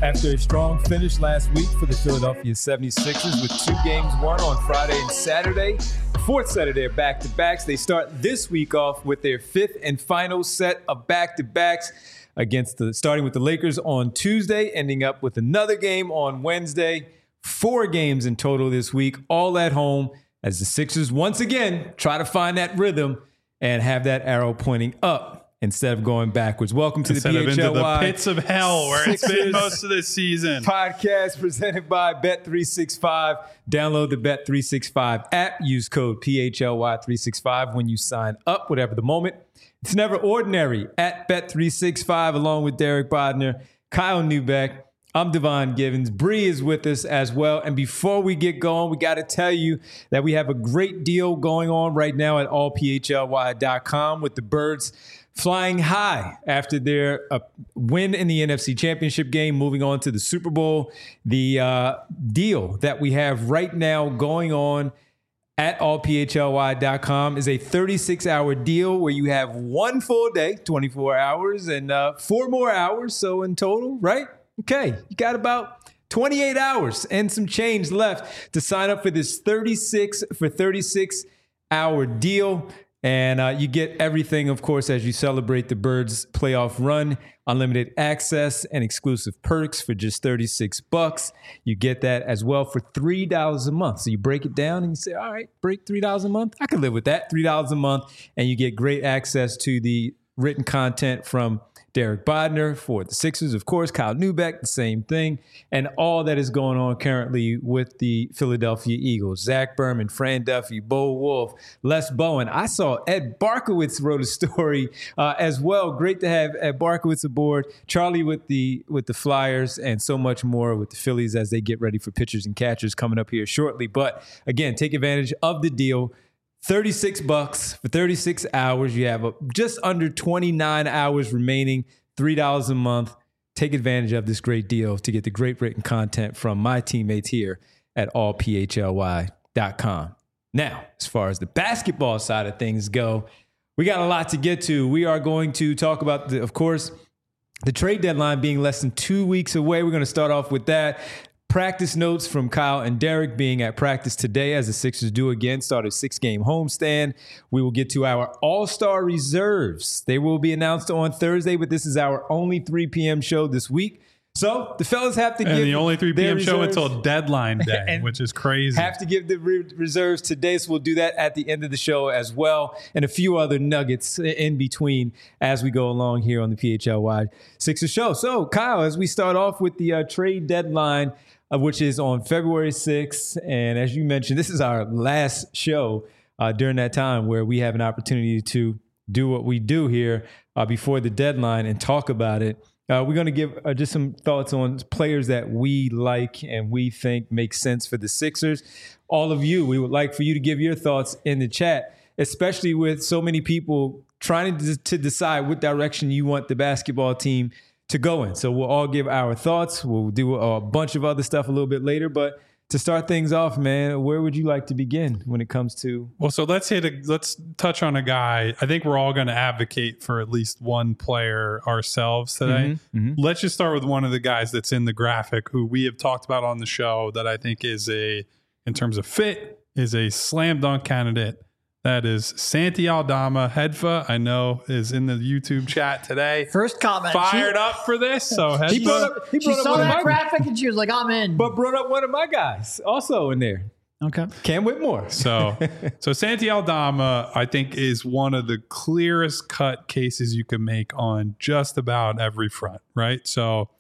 After a strong finish last week for the Philadelphia 76ers with 2 games won on Friday and Saturday, fourth set of their back-to-backs, they start this week off with their 5th and final set of back-to-backs starting with the Lakers on Tuesday, ending up with another game on Wednesday. 4 games in total this week, all at home, as the Sixers once again try to find that rhythm and have that arrow pointing up instead of going backwards. Welcome to instead the of into the PHLY pits of hell where it's been most of this season. Podcast presented by Bet365. Download the Bet365 app. Use code PHLY365 when you sign up, whatever the moment. It's never ordinary at Bet365, along with Derek Bodner, Kyle Neubeck. I'm Devon Givens. Bree is with us as well. And before we get going, we got to tell you that we have a great deal going on right now at allphly.com with the Birds flying high after their win in the NFC Championship game, moving on to the Super Bowl. The deal that we have right now going on at allphly.com is a 36-hour deal where you have 1 full day, 24 hours, and 4 more hours. So in total, right? Okay, you got about 28 hours and some change left to sign up for this 36-hour deal. And you get everything, of course, as you celebrate the Birds playoff run, unlimited access and exclusive perks for just $36. You get that as well for $3 a month. So you break it down and you say, all right, break $3 a month. I can live with that. $3 a month. And you get great access to the written content from Derek Bodner for the Sixers, of course, Kyle Neubeck, the same thing, and all that is going on currently with the Philadelphia Eagles. Zach Berman, Fran Duffy, Bo Wolf, Les Bowen. I saw Ed Barkowitz wrote a story as well. Great to have Ed Barkowitz aboard. Charlie with the Flyers, and so much more with the Phillies as they get ready for pitchers and catchers coming up here shortly. But again, take advantage of the deal. $36 for 36 hours. You have just under 29 hours remaining, $3 a month. Take advantage of this great deal to get the great written content from my teammates here at allphly.com. Now, as far as the basketball side of things go, we got a lot to get to. We are going to talk about, of course, the trade deadline being less than 2 weeks away. We're going to start off with that. Practice notes from Kyle and Derek being at practice today as the Sixers do again start a 6-game homestand. We will get to our All-Star reserves. They will be announced on Thursday, but this is our only 3 p.m. show this week. So the fellas have to give the only 3 p.m. show reserves until deadline day, which is crazy. Have to give the reserves today, so we'll do that at the end of the show as well, and a few other nuggets in between as we go along here on the PHLY Sixers show. So, Kyle, as we start off with the trade deadline, which is on February 6th. And as you mentioned, this is our last show during that time where we have an opportunity to do what we do here before the deadline and talk about it. We're going to give just some thoughts on players that we like and we think make sense for the Sixers. All of you, we would like for you to give your thoughts in the chat, especially with so many people trying to decide what direction you want the basketball team to go in. So we'll all give our thoughts. We'll do a bunch of other stuff a little bit later. But to start things off, man, where would you like to begin when it comes to? Well, so let's touch on a guy. I think we're all going to advocate for at least one player ourselves today. Let's just start with one of the guys that's in the graphic who we have talked about on the show that I think is in terms of fit, is a slam dunk candidate. That is Santi Aldama. Hedfa, I know, is in the YouTube chat today. First comment. Fired up for this. So Hedfa, She saw that graphic and she was like, I'm in. But brought up one of my guys also in there. Okay. Cam Whitmore. So Santi Aldama, I think, is one of the clearest cut cases you can make on just about every front, right? So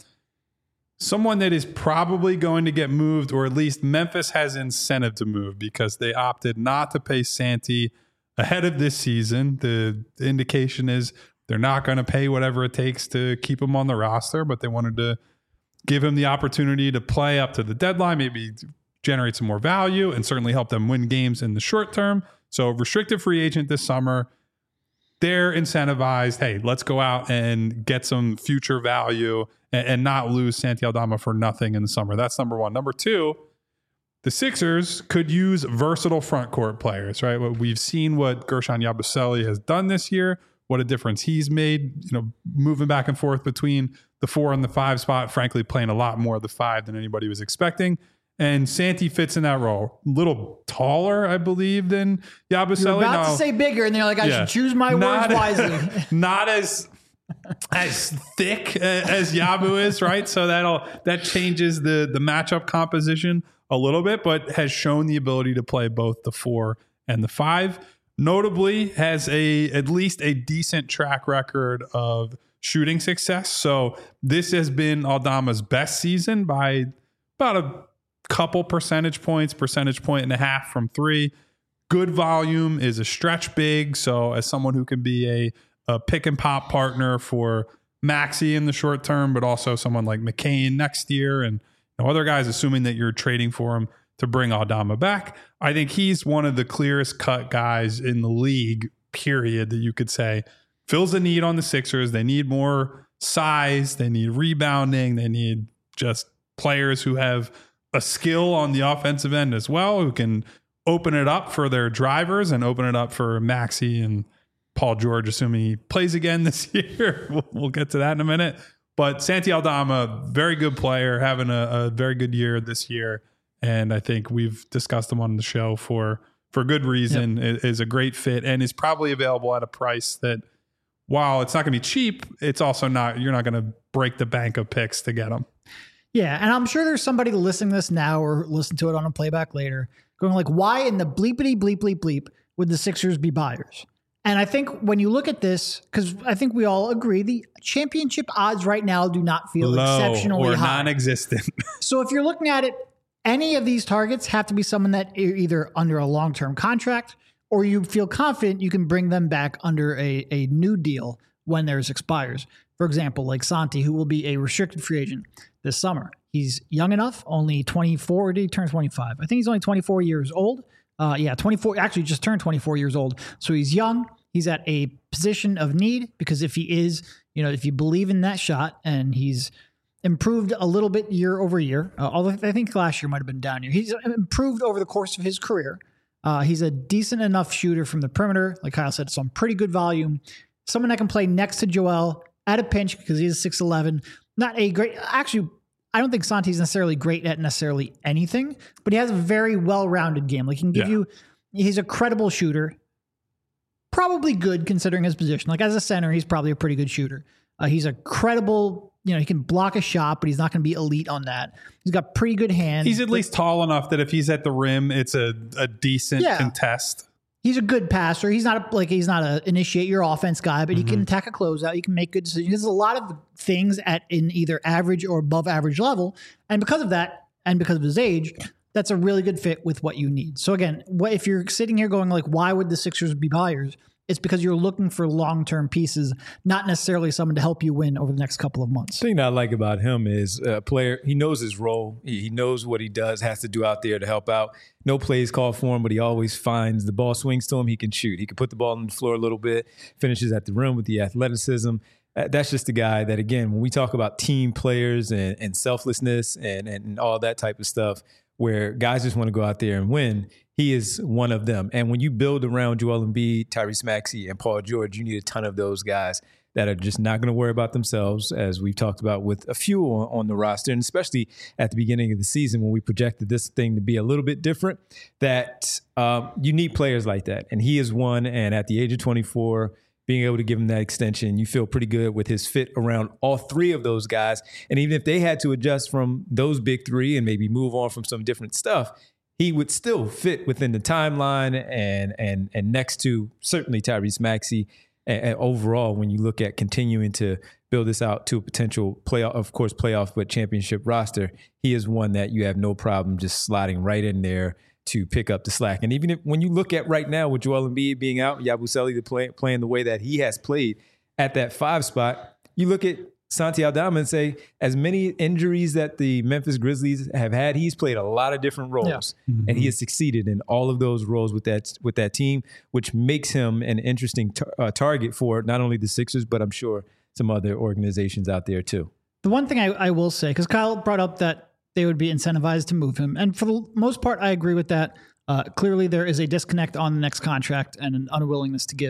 someone that is probably going to get moved, or at least Memphis has incentive to move because they opted not to pay Santi ahead of this season. The indication is they're not going to pay whatever it takes to keep him on the roster, but they wanted to give him the opportunity to play up to the deadline, maybe generate some more value, and certainly help them win games in the short term. So restricted free agent this summer. They're incentivized, hey, let's go out and get some future value and not lose Santi Aldama for nothing in the summer. That's number one. Number two, the Sixers could use versatile front court players, right? We've seen what Gershon Yabusele has done this year. what a difference he's made, moving back and forth between the 4 and the 5 spot, frankly, playing a lot more of the 5 than anybody was expecting. And Santi fits in that role. A little taller, I believe, than Yabusele. You're about to say bigger, and they're like, I should choose my words wisely. Not as thick as Yabu is, right? So that changes the matchup composition a little bit, but has shown the ability to play both the 4 and the 5. Notably, has at least a decent track record of shooting success. So this has been Aldama's best season by about a couple percentage point and a half from 3. Good volume, is a stretch big. So as someone who can be a pick and pop partner for Maxey in the short term, but also someone like McCain next year and other guys, assuming that you're trading for him to bring Aldama back. I think he's one of the clearest cut guys in the league, period, that you could say fills the need on the Sixers. They need more size. They need rebounding. They need just players who have a skill on the offensive end as well, who can open it up for their drivers and open it up for Maxey and Paul George, assuming he plays again this year. We'll get to that in a minute. But Santi Aldama, very good player, having a very good year this year. And I think we've discussed him on the show for good reason. Yep. Is a great fit and is probably available at a price that, while it's not going to be cheap, it's also you're not going to break the bank of picks to get him. Yeah, and I'm sure there's somebody listening to this now or listen to it on a playback later going like, why in the bleepity bleep bleep bleep would the Sixers be buyers? And I think when you look at this, because I think we all agree, the championship odds right now do not feel low exceptionally or high. Non-existent. So if you're looking at it, any of these targets have to be someone that are either under a long-term contract or you feel confident you can bring them back under a new deal when theirs expires. For example, like Santi, who will be a restricted free agent this summer. He's young enough, only 24. Did he turn 25? I think he's only 24 years old. 24, actually just turned 24 years old. So he's young. He's at a position of need because if he is, if you believe in that shot, and he's improved a little bit year over year, although I think last year might have been down here. He's improved over the course of his career. He's a decent enough shooter from the perimeter. Like Kyle said, some pretty good volume. Someone that can play next to Joel at a pinch because he's 6'11". Not a great, actually, I don't think Santi's necessarily great at necessarily anything, but he has a very well-rounded game. Like he can give you, he's a credible shooter, probably good considering his position. Like as a center, he's probably a pretty good shooter. He's a credible, he can block a shot, but he's not going to be elite on that. He's got pretty good hands. He's at least tall enough that if he's at the rim, it's a decent contest. He's a good passer. He's not a initiate your offense guy, but he can attack a closeout. He can make good decisions. There's a lot of things in either average or above average level. And because of that, and because of his age, that's a really good fit with what you need. So again, if you're sitting here going like, why would the Sixers be buyers? It's because you're looking for long-term pieces, not necessarily someone to help you win over the next couple of months. The thing that I like about him is a player, he knows his role. He knows what he has to do out there to help out. No plays called for him, but he always finds the ball swings to him. He can shoot. He can put the ball on the floor a little bit, finishes at the rim with the athleticism. That's just the guy that, again, when we talk about team players and selflessness and all that type of stuff, where guys just want to go out there and win, he is one of them. And when you build around Joel Embiid, Tyrese Maxey, and Paul George, you need a ton of those guys that are just not going to worry about themselves, as we've talked about with a few on the roster, and especially at the beginning of the season when we projected this thing to be a little bit different, that you need players like that. And he is one, and at the age of 24, being able to give him that extension, you feel pretty good with his fit around all three of those guys. And even if they had to adjust from those big three and maybe move on from some different stuff, he would still fit within the timeline and next to certainly Tyrese Maxey. And overall, when you look at continuing to build this out to a potential playoff, but championship roster, he is one that you have no problem just sliding right in there to pick up the slack. And even when you look at right now with Joel Embiid being out, Yabusele playing the way that he has played at that 5 spot, you look at Santi Aldama and say, as many injuries that the Memphis Grizzlies have had, he's played a lot of different roles, and he has succeeded in all of those roles with that team, which makes him an interesting target for not only the Sixers, but I'm sure some other organizations out there too. The one thing I will say, because Kyle brought up that they would be incentivized to move him, and for the most part, I agree with that. Clearly, there is a disconnect on the next contract and an unwillingness to give.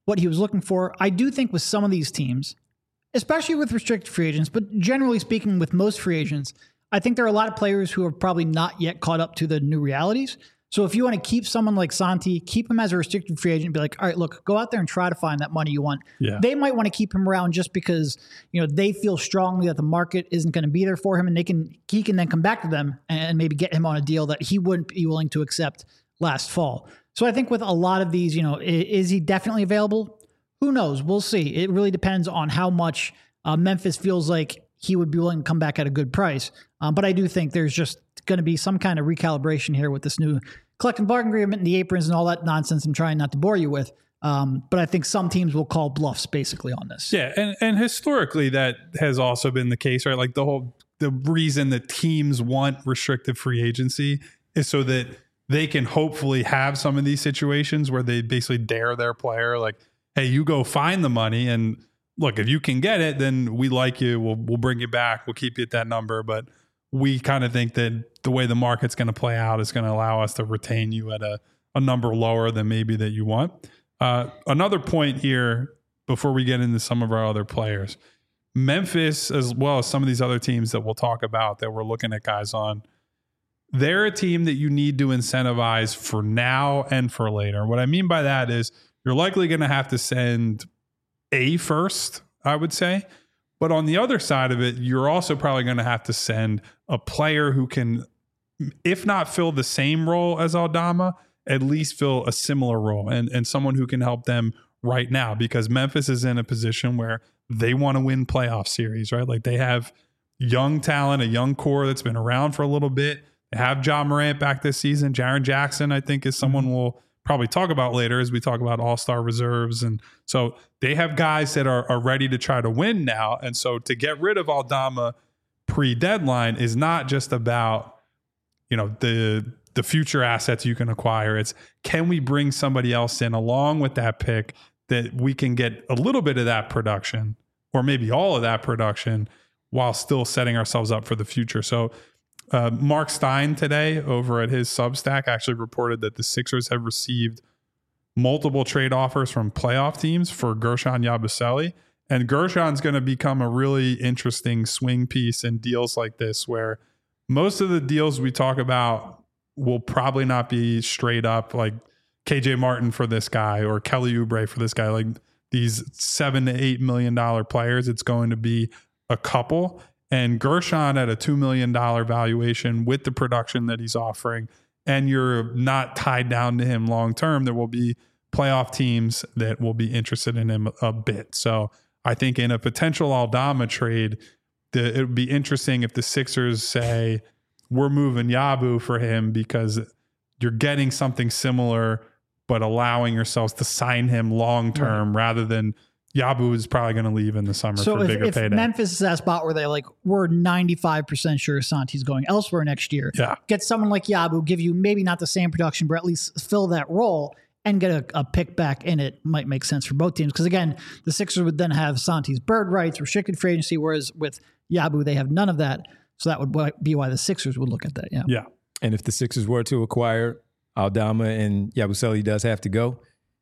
what he was looking for. I do think with some of these teams, especially with restricted free agents, but generally speaking with most free agents, I think there are a lot of players who are probably not yet caught up to the new realities. So if you want to keep someone like Santi, keep him as a restricted free agent, be like, all right, look, go out there and try to find that money you want. Yeah. They might want to keep him around just because, they feel strongly that the market isn't going to be there for him, and he can then come back to them and maybe get him on a deal that he wouldn't be willing to accept last fall. So I think with a lot of these, is he definitely available? Who knows? We'll see. It really depends on how much Memphis feels like he would be willing to come back at a good price. But I do think there's just going to be some kind of recalibration here with this new collective bargaining agreement and the aprons and all that nonsense I'm trying not to bore you with. But I think some teams will call bluffs basically on this. Yeah. And historically that has also been the case, right? Like the reason that teams want restricted free agency is so that they can hopefully have some of these situations where they basically dare their player, like, hey, you go find the money, and look, if you can get it, then we like you. We'll bring you back. We'll keep you at that number. But we kind of think that the way the market's going to play out is going to allow us to retain you at a number lower than maybe that you want. Another point here before we get into some of our other players, Memphis, as well as some of these other teams that we'll talk about that we're looking at guys on, they're a team that you need to incentivize for now and for later. What I mean by that is you're likely going to have to send a first, I would say. But on the other side of it, you're also probably going to have to send a player who can, if not fill the same role as Aldama, at least fill a similar role and someone who can help them right now, because Memphis is in a position where they want to win playoff series, right? Like they have young talent, a young core that's been around for a little bit. They have Ja Morant back this season. Jaren Jackson, I think, is someone we'll probably talk about later as we talk about all-star reserves. And so they have guys that are ready to try to win now. And so to get rid of Aldama pre-deadline is not just about, the future assets you can acquire. It's, can we bring somebody else in along with that pick that we can get a little bit of that production or maybe all of that production while still setting ourselves up for the future. So Mark Stein today over at his Substack actually reported that the Sixers have received multiple trade offers from playoff teams for Guerschon Yabusele. And Gershon's going to become a really interesting swing piece in deals like this, where most of the deals we talk about will probably not be straight up like KJ Martin for this guy or Kelly Oubre for this guy, like these $7 to $8 million players. It's going to be a couple. And Guerschon at a $2 million valuation with the production that he's offering, and you're not tied down to him long term, there will be playoff teams that will be interested in him a bit. So I think in a potential Aldama trade, it would be interesting if the Sixers say, we're moving Yabu for him because you're getting something similar, but allowing yourselves to sign him long term rather than Yabu is probably going to leave in the summer for a bigger payday. Memphis is that spot where they we're 95% sure Santi's going elsewhere next year. Yeah. Get someone like Yabu, give you maybe not the same production, but at least fill that role and get a pick back in it might make sense for both teams. Because again, the Sixers would then have Santi's bird rights, restricted free agency, whereas with Yabu, they have none of that. So that would be why the Sixers would look at that. Yeah. And if the Sixers were to acquire Aldama and Yabusele does have to go,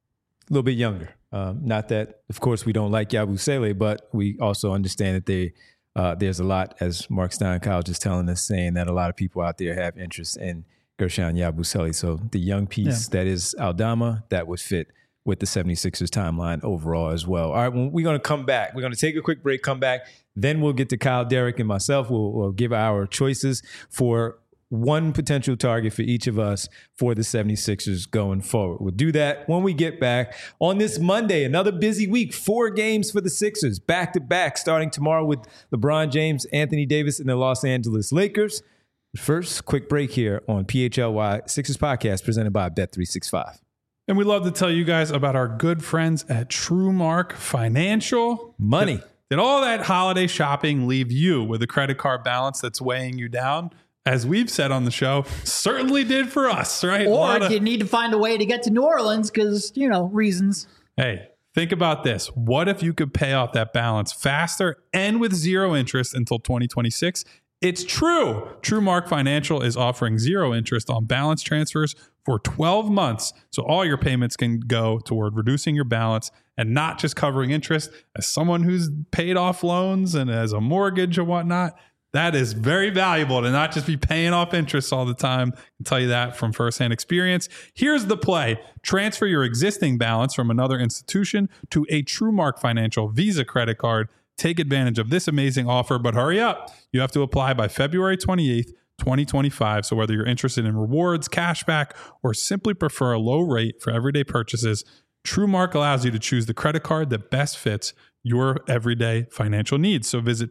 a little bit younger. Not that, of course, we don't like Yabusele, but we also understand that there's a lot, as Mark Stein-Kyle just telling us, saying that a lot of people out there have interest in Guerschon Yabusele. So the young piece that is Aldama, that would fit with the 76ers timeline overall as well. All right, well, we're going to come back. We're going to take a quick break, come back. Then we'll get to Kyle, Derek, and myself. We'll give our choices for one potential target for each of us for the 76ers going forward. We'll do that when we get back on this Monday. Another busy week, 4 games for the Sixers, back-to-back, starting tomorrow with LeBron James, Anthony Davis, and the Los Angeles Lakers. First, quick break here on PHLY Sixers Podcast presented by Bet365. And we'd love to tell you guys about our good friends at TrueMark Financial. Money. Did all that holiday shopping leave you with a credit card balance that's weighing you down? As we've said on the show, certainly did for us, right? Or you need to find a way to get to New Orleans because, reasons. Hey, think about this. What if you could pay off that balance faster and with zero interest until 2026 It's true. TrueMark Financial is offering 0 interest on balance transfers for 12 months. So all your payments can go toward reducing your balance and not just covering interest. As someone who's paid off loans and has a mortgage and whatnot, that is very valuable to not just be paying off interest all the time. I can tell you that from firsthand experience. Here's the play. Transfer your existing balance from another institution to a TrueMark Financial Visa credit card. Take advantage of this amazing offer, but hurry up. You have to apply by February 28th, 2025. So whether you're interested in rewards, cashback, or simply prefer a low rate for everyday purchases, TrueMark allows you to choose the credit card that best fits your everyday financial needs. So visit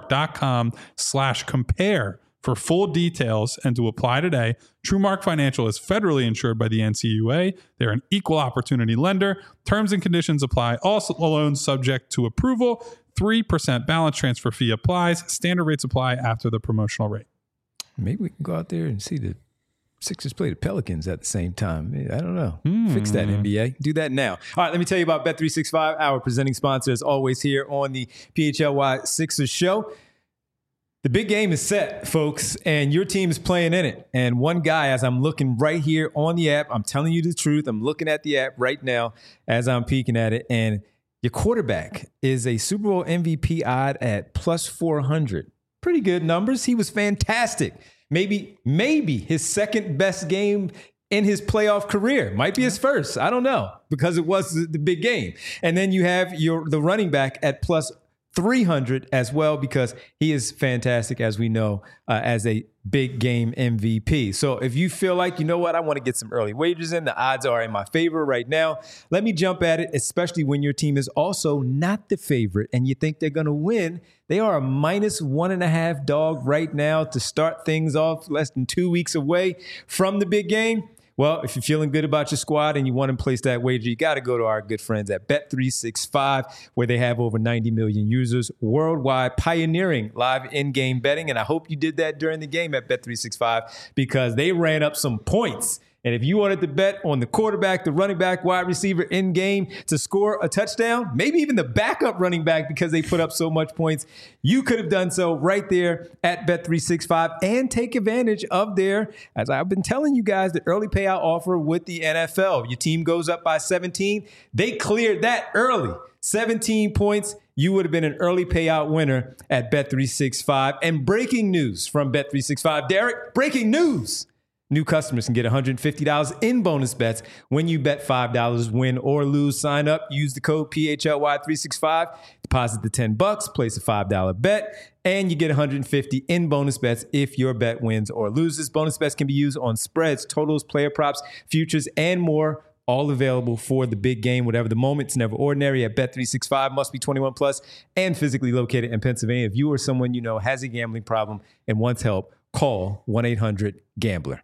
TrueMark.com/compare for full details and to apply today. TrueMark Financial is federally insured by the NCUA. They're an equal opportunity lender. Terms and conditions apply. Also loans subject to approval. 3% balance transfer fee applies. Standard rates apply after the promotional rate. Maybe we can go out there and see the Sixers play the Pelicans at the same time. I don't know. Fix that, NBA. Do that now. All right, let me tell you about Bet365, our presenting sponsor, as always, here on the PHLY Sixers show. The big game is set, folks, and your team is playing in it. And one guy, as I'm looking right here on the app, I'm telling you the truth. I'm looking at the app right now as I'm peeking at it, and your quarterback is a Super Bowl MVP odd at plus 400. Pretty good numbers. He was fantastic. Maybe his second best game in his playoff career. Might be his first. I don't know, because it was the big game. And then you have the running back at plus 300 as well, because he is fantastic, as we know, as a big game MVP. So if you feel like, you know what, I want to get some early wagers in, the odds are in my favor right now. Let me jump at it, especially when your team is also not the favorite and you think they're going to win. They are a -1.5 dog right now to start things off, less than 2 weeks away from the big game. Well, if you're feeling good about your squad and you want to place that wager, you got to go to our good friends at Bet365, where they have over 90 million users worldwide pioneering live in-game betting. And I hope you did that during the game at Bet365, because they ran up some points. And if you wanted to bet on the quarterback, the running back, wide receiver in game to score a touchdown, maybe even the backup running back because they put up so much points, you could have done so right there at Bet365 and take advantage of their, as I've been telling you guys, the early payout offer with the NFL. Your team goes up by 17. They cleared that early. 17 points. You would have been an early payout winner at Bet365. And breaking news from Bet365. Derek, breaking news. New customers can get $150 in bonus bets when you bet $5, win or lose. Sign up, use the code PHLY365, deposit the $10, place a $5 bet, and you get $150 in bonus bets if your bet wins or loses. Bonus bets can be used on spreads, totals, player props, futures, and more. All available for the big game, whatever the moment. It's never ordinary at Bet365. Must be 21 plus and physically located in Pennsylvania. If you or someone you know has a gambling problem and wants help, call 1-800-GAMBLER.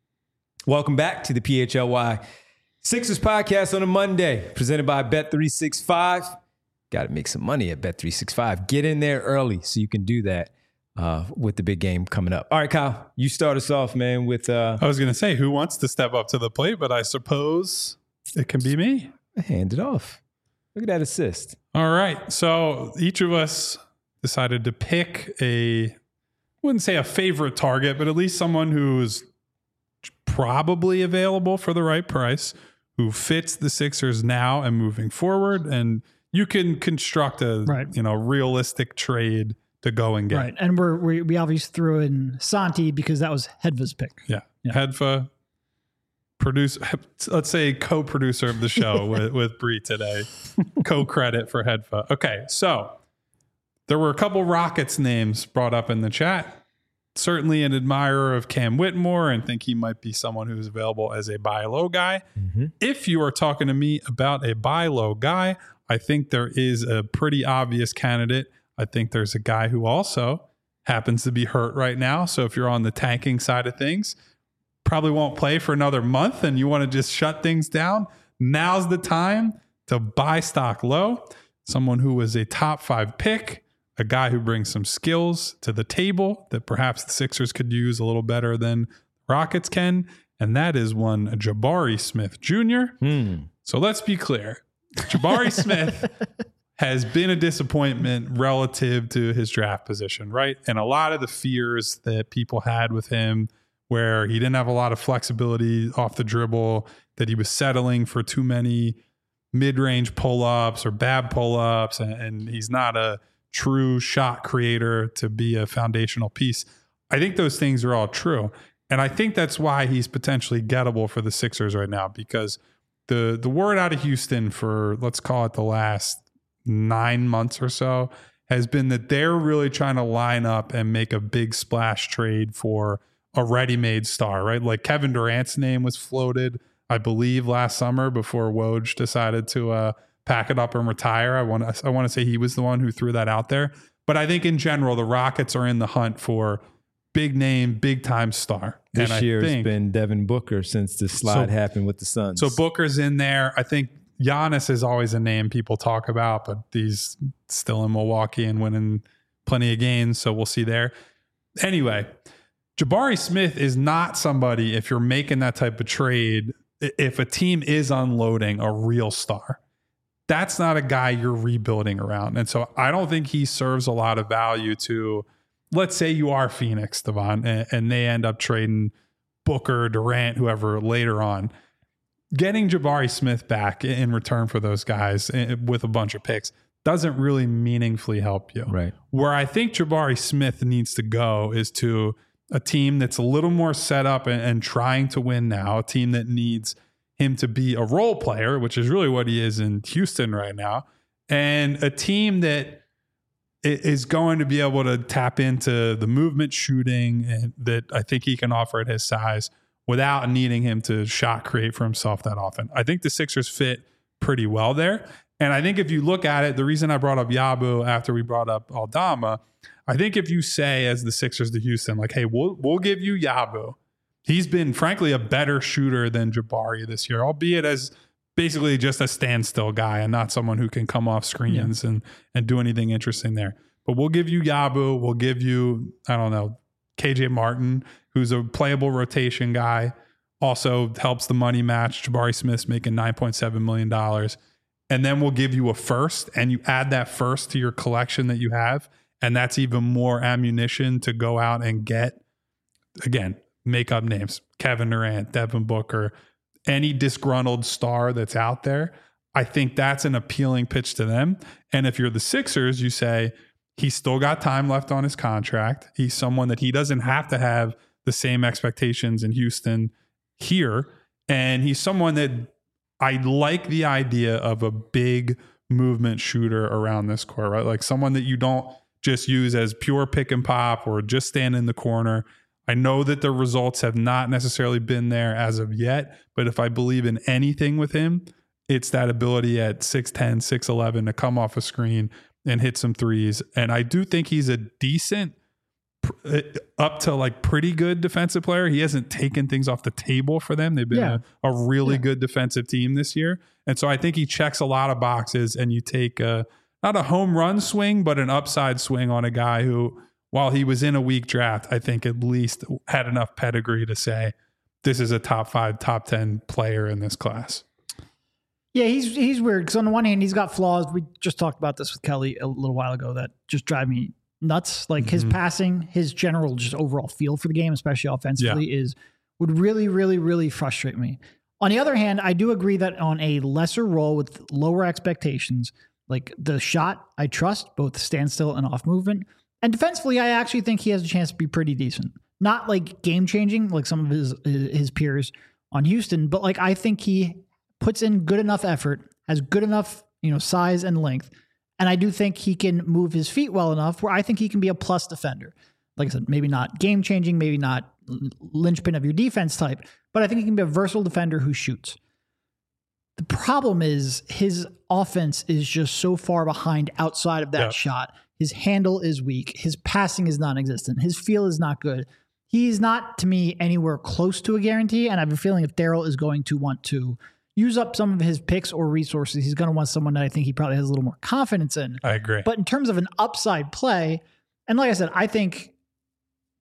Welcome back to the PHLY Sixers podcast on a Monday, presented by Bet365. Got to make some money at Bet365. Get in there early so you can do that with the big game coming up. All right, Kyle, you start us off, man, with... I was going to say, who wants to step up to the plate, but I suppose it can be me. Hand it off. Look at that assist. All right. So each of us decided to pick I wouldn't say a favorite target, but at least someone who's probably available for the right price, who fits the Sixers now and moving forward. And you can construct a realistic trade to go and get. Right. And we obviously threw in Santi because that was Hedva's pick. Yeah. Hedva, let's say co-producer of the show with Bree today. Co-credit for Hedva. Okay. So there were a couple Rockets names brought up in the chat. Certainly an admirer of Cam Whitmore and think he might be someone who's available as a buy low guy. Mm-hmm. If you are talking to me about a buy low guy, I think there is a pretty obvious candidate. I think there's a guy who also happens to be hurt right now. So if you're on the tanking side of things, probably won't play for another month and you want to just shut things down, now's the time to buy stock low. Someone who was a top 5 pick, a guy who brings some skills to the table that perhaps the Sixers could use a little better than Rockets can. And that is one Jabari Smith Jr. So let's be clear. Jabari Smith has been a disappointment relative to his draft position, right? And a lot of the fears that people had with him, where he didn't have a lot of flexibility off the dribble, that he was settling for too many mid-range pull-ups or bad pull-ups, and he's not a true shot creator to be a foundational piece. I think those things are all true. And I think that's why he's potentially gettable for the Sixers right now, because the word out of Houston for, let's call it the last 9 months or so, has been that they're really trying to line up and make a big splash trade for a ready-made star, right? Like Kevin Durant's name was floated, I believe, last summer before Woj decided to pack it up and retire. I want to say he was the one who threw that out there. But I think in general, the Rockets are in the hunt for big name, big time star. This year has been Devin Booker since the slide happened with the Suns. So Booker's in there. I think Giannis is always a name people talk about, but he's still in Milwaukee and winning plenty of games. So we'll see there. Anyway, Jabari Smith is not somebody, if you're making that type of trade, if a team is unloading a real star, that's not a guy you're rebuilding around. And so I don't think he serves a lot of value to, let's say you are Phoenix, Devon, and they end up trading Booker, Durant, whoever later on. Getting Jabari Smith back in return for those guys with a bunch of picks doesn't really meaningfully help you. Right. Where I think Jabari Smith needs to go is to a team that's a little more set up and trying to win now, a team that needs him to be a role player, which is really what he is in Houston right now, and a team that is going to be able to tap into the movement shooting and that I think he can offer at his size without needing him to shot create for himself that often. I think the Sixers fit pretty well there. And I think if you look at it, the reason I brought up Yabu after we brought up Aldama, I think if you say as the Sixers to Houston, like, hey, we'll give you Yabu. He's been, frankly, a better shooter than Jabari this year, albeit as basically just a standstill guy and not someone who can come off screens and do anything interesting there. But we'll give you Yabu. We'll give you, I don't know, KJ Martin, who's a playable rotation guy, also helps the money match. Jabari Smith's making $9.7 million. And then we'll give you a first, and you add that first to your collection that you have. And that's even more ammunition to go out and get, again, make up names, Kevin Durant, Devin Booker, any disgruntled star that's out there. I think that's an appealing pitch to them. And if you're the Sixers, you say, he's still got time left on his contract. He's someone that he doesn't have to have the same expectations in Houston here. And he's someone that I like the idea of a big movement shooter around this court, right? Like someone that you don't just use as pure pick and pop or just stand in the corner. I know that the results have not necessarily been there as of yet, but if I believe in anything with him, it's that ability at 6'10", 6'11" to come off a screen and hit some threes. And I do think he's a decent, up to like pretty good defensive player. He hasn't taken things off the table for them. They've been a really good defensive team this year. And so I think he checks a lot of boxes, and you take not a home run swing, but an upside swing on a guy who, while he was in a weak draft, I think at least had enough pedigree to say this is a top 5, top 10 player in this class. Yeah, he's weird because on the one hand, he's got flaws. We just talked about this with Kelly a little while ago that just drive me nuts. Like his passing, his general just overall feel for the game, especially offensively, would really, really, really frustrate me. On the other hand, I do agree that on a lesser role with lower expectations, like the shot, I trust both standstill and off movement. And defensively, I actually think he has a chance to be pretty decent. Not like game changing like some of his peers on Houston, but like I think he puts in good enough effort, has good enough, size and length. And I do think he can move his feet well enough where I think he can be a plus defender. Like I said, maybe not game changing, maybe not linchpin of your defense type, but I think he can be a versatile defender who shoots. The problem is his offense is just so far behind outside of that shot. His handle is weak. His passing is non-existent. His feel is not good. He's not, to me, anywhere close to a guarantee. And I have a feeling if Daryl is going to want to use up some of his picks or resources, he's going to want someone that I think he probably has a little more confidence in. I agree. But in terms of an upside play, and like I said, I think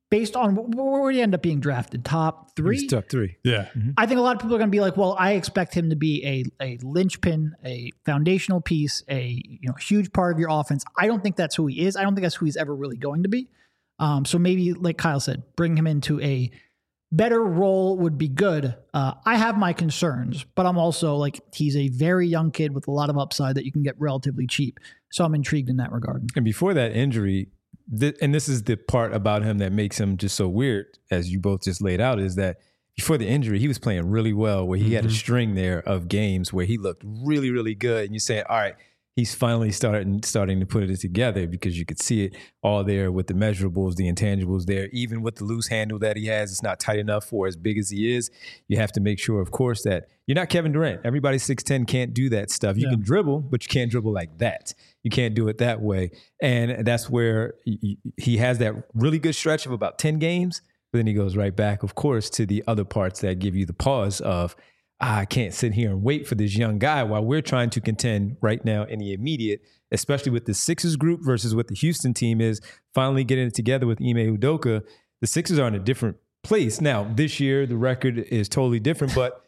based on where he end up being drafted, top 3. He's top 3. Yeah. I think a lot of people are going to be like, well, I expect him to be a linchpin, a foundational piece, a huge part of your offense. I don't think that's who he is. I don't think that's who he's ever really going to be. So maybe, like Kyle said, bring him into a better role would be good. I have my concerns, but I'm also like, he's a very young kid with a lot of upside that you can get relatively cheap. So I'm intrigued in that regard. And before that injury, and this is the part about him that makes him just so weird, as you both just laid out, is that before the injury, he was playing really well, where he had a string there of games where he looked really, really good. And you're saying, all right, he's finally starting to put it together, because you could see it all there with the measurables, the intangibles there. Even with the loose handle that he has, it's not tight enough for as big as he is. You have to make sure, of course, that you're not Kevin Durant. Everybody 6'10" can't do that stuff. You can dribble, but you can't dribble like that. You can't do it that way. And that's where he has that really good stretch of about 10 games, but then he goes right back, of course, to the other parts that give you the pause of, I can't sit here and wait for this young guy while we're trying to contend right now in the immediate, especially with the Sixers group versus what the Houston team is, finally getting it together with Ime Udoka. The Sixers are in a different place. Now, this year, the record is totally different, but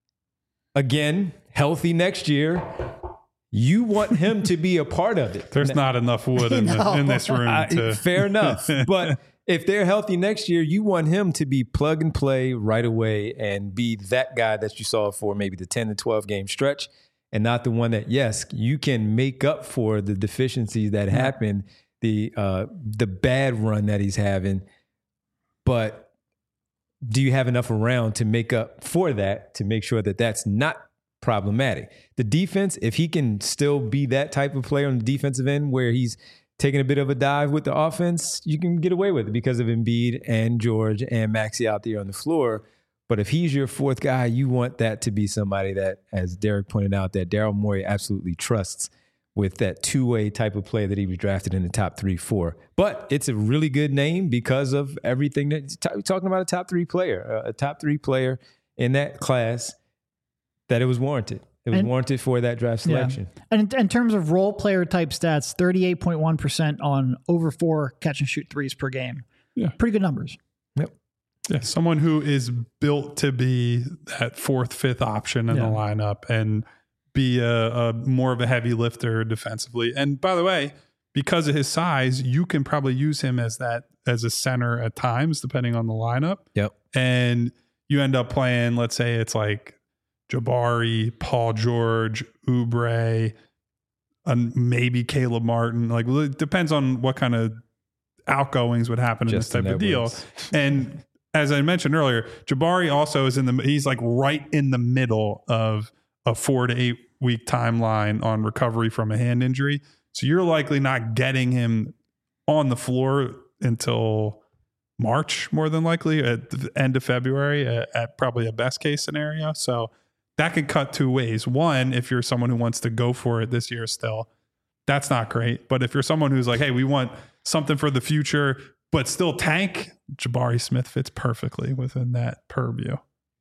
again, healthy next year. You want him to be a part of it. There's not enough wood in this room. Fair enough. But if they're healthy next year, you want him to be plug and play right away and be that guy that you saw for maybe the 10 to 12 game stretch, and not the one that, yes, you can make up for the deficiencies that happen, the bad run that he's having. But do you have enough around to make up for that, to make sure that that's not problematic? The defense, if he can still be that type of player on the defensive end where he's taking a bit of a dive with the offense, you can get away with it because of Embiid and George and Maxey out there on the floor. But if he's your fourth guy, you want that to be somebody that, as Derek pointed out, that Daryl Morey absolutely trusts with that two-way type of play that he was drafted in the top 3-4. But it's a really good name because of everything that we're talking about, a top 3 player in that class, that it was warranted. It was warranted for that draft selection. Yeah. And in terms of role player type stats, 38.1% on over 4 catch and shoot threes per game. Yeah. Pretty good numbers. Yep. Yeah, someone who is built to be that 4th, 5th option in the lineup and be a more of a heavy lifter defensively. And by the way, because of his size, you can probably use him as a center at times, depending on the lineup. Yep. And you end up playing, let's say it's like Jabari, Paul George, Oubre, and maybe Caleb Martin. Like, it depends on what kind of outgoings would happen in this type of deal. And as I mentioned earlier, Jabari also is he's like right in the middle of a 4 to 8 week timeline on recovery from a hand injury. So you're likely not getting him on the floor until March, more than likely, at the end of February, at probably a best case scenario. So that could cut 2 ways. One, if you're someone who wants to go for it this year still, that's not great. But if you're someone who's like, hey, we want something for the future, but still tank, Jabari Smith fits perfectly within that purview.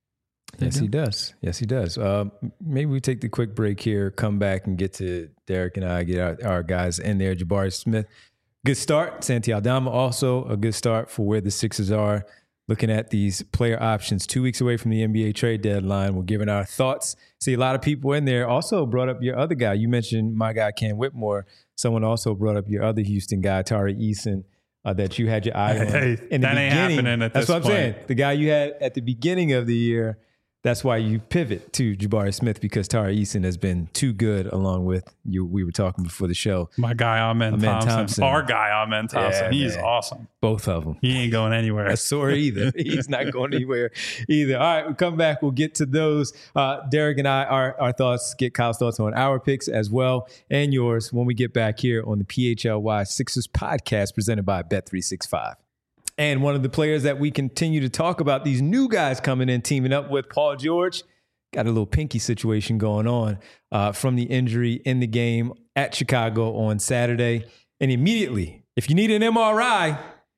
Yes, he does. Yes, he does. Maybe we take the quick break here, come back and get to Derek and I, get our guys in there. Jabari Smith, good start. Santi Aldama, also a good start for where the Sixers are. Looking at these player options 2 weeks away from the NBA trade deadline. We're giving our thoughts. See, a lot of people in there also brought up your other guy. You mentioned my guy, Cam Whitmore. Someone also brought up your other Houston guy, Tari Eason, that you had your eye on. Hey, in the that ain't happening at this point. That's what I'm saying. The guy you had at the beginning of the year, that's why you pivot to Jabari Smith, because Tari Eason has been too good along with you. We were talking before the show. My guy, Amen Thompson. Our guy, Amen Thompson. Yeah, he's awesome. Both of them. He ain't going anywhere. That's sore either. He's not going anywhere either. All right, we'll come back. We'll get to those. Derek and I, our thoughts, get Kyle's thoughts on our picks as well, and yours when we get back here on the PHLY Sixers podcast presented by Bet365. And one of the players that we continue to talk about, these new guys coming in, teaming up with Paul George, got a little pinky situation going on from the injury in the game at Chicago on Saturday. And immediately, if you need an MRI,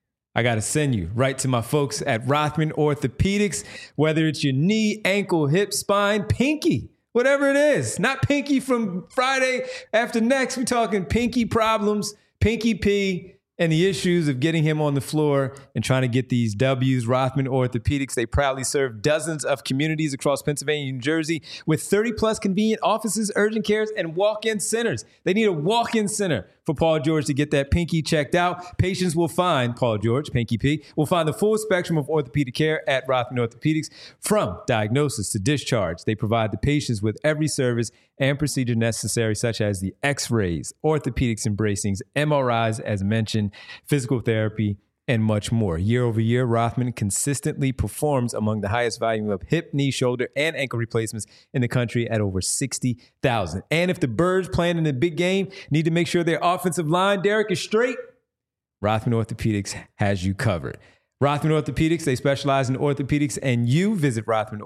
I got to send you right to my folks at Rothman Orthopedics, whether it's your knee, ankle, hip, spine, pinky, whatever it is. Not pinky from Friday after next. We're talking pinky problems, pinky P. and the issues of getting him on the floor and trying to get these W's. Rothman Orthopedics, they proudly serve dozens of communities across Pennsylvania and New Jersey with 30-plus convenient offices, urgent cares, and walk-in centers. They need a walk-in center for Paul George to get that pinky checked out. Patients will find, Paul George, Pinky P, will find the full spectrum of orthopedic care at Rothman Orthopedics, from diagnosis to discharge. They provide the patients with every service and procedure necessary, such as the x-rays, orthopedics and bracings, MRIs, as mentioned, physical therapy, and much more. Year over year, Rothman consistently performs among the highest volume of hip, knee, shoulder, and ankle replacements in the country at over 60,000. And if the Birds playing in the big game need to make sure their offensive line, Derek, is straight, Rothman Orthopedics has you covered. Rothman Orthopedics, they specialize in orthopedics, and you visit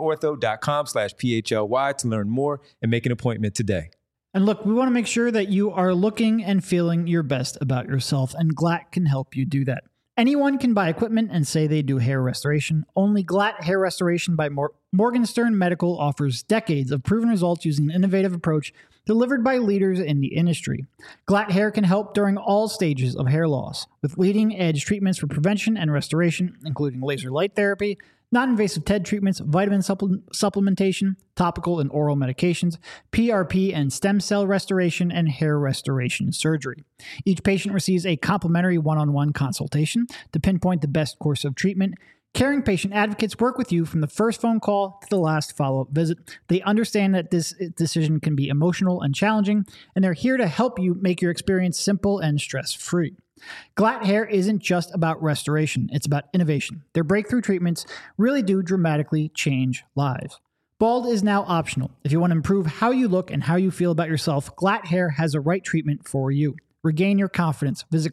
rothmanortho.com/PHLY to learn more and make an appointment today. And look, we want to make sure that you are looking and feeling your best about yourself, and Glatt can help you do that. Anyone can buy equipment and say they do hair restoration. Only Glatt Hair Restoration by Morgenstern Medical offers decades of proven results using an innovative approach delivered by leaders in the industry. Glatt Hair can help during all stages of hair loss with leading-edge treatments for prevention and restoration, including laser light therapy, non-invasive TED treatments, vitamin supplementation, topical and oral medications, PRP and stem cell restoration, and hair restoration surgery. Each patient receives a complimentary one-on-one consultation to pinpoint the best course of treatment. Caring patient advocates work with you from the first phone call to the last follow-up visit. They understand that this decision can be emotional and challenging, and they're here to help you make your experience simple and stress-free. Glatt Hair isn't just about restoration, it's about innovation. Their breakthrough treatments really do dramatically change lives. Bald is now optional. If you want to improve how you look and how you feel about yourself, Glatt Hair has the right treatment for you. Regain your confidence. Visit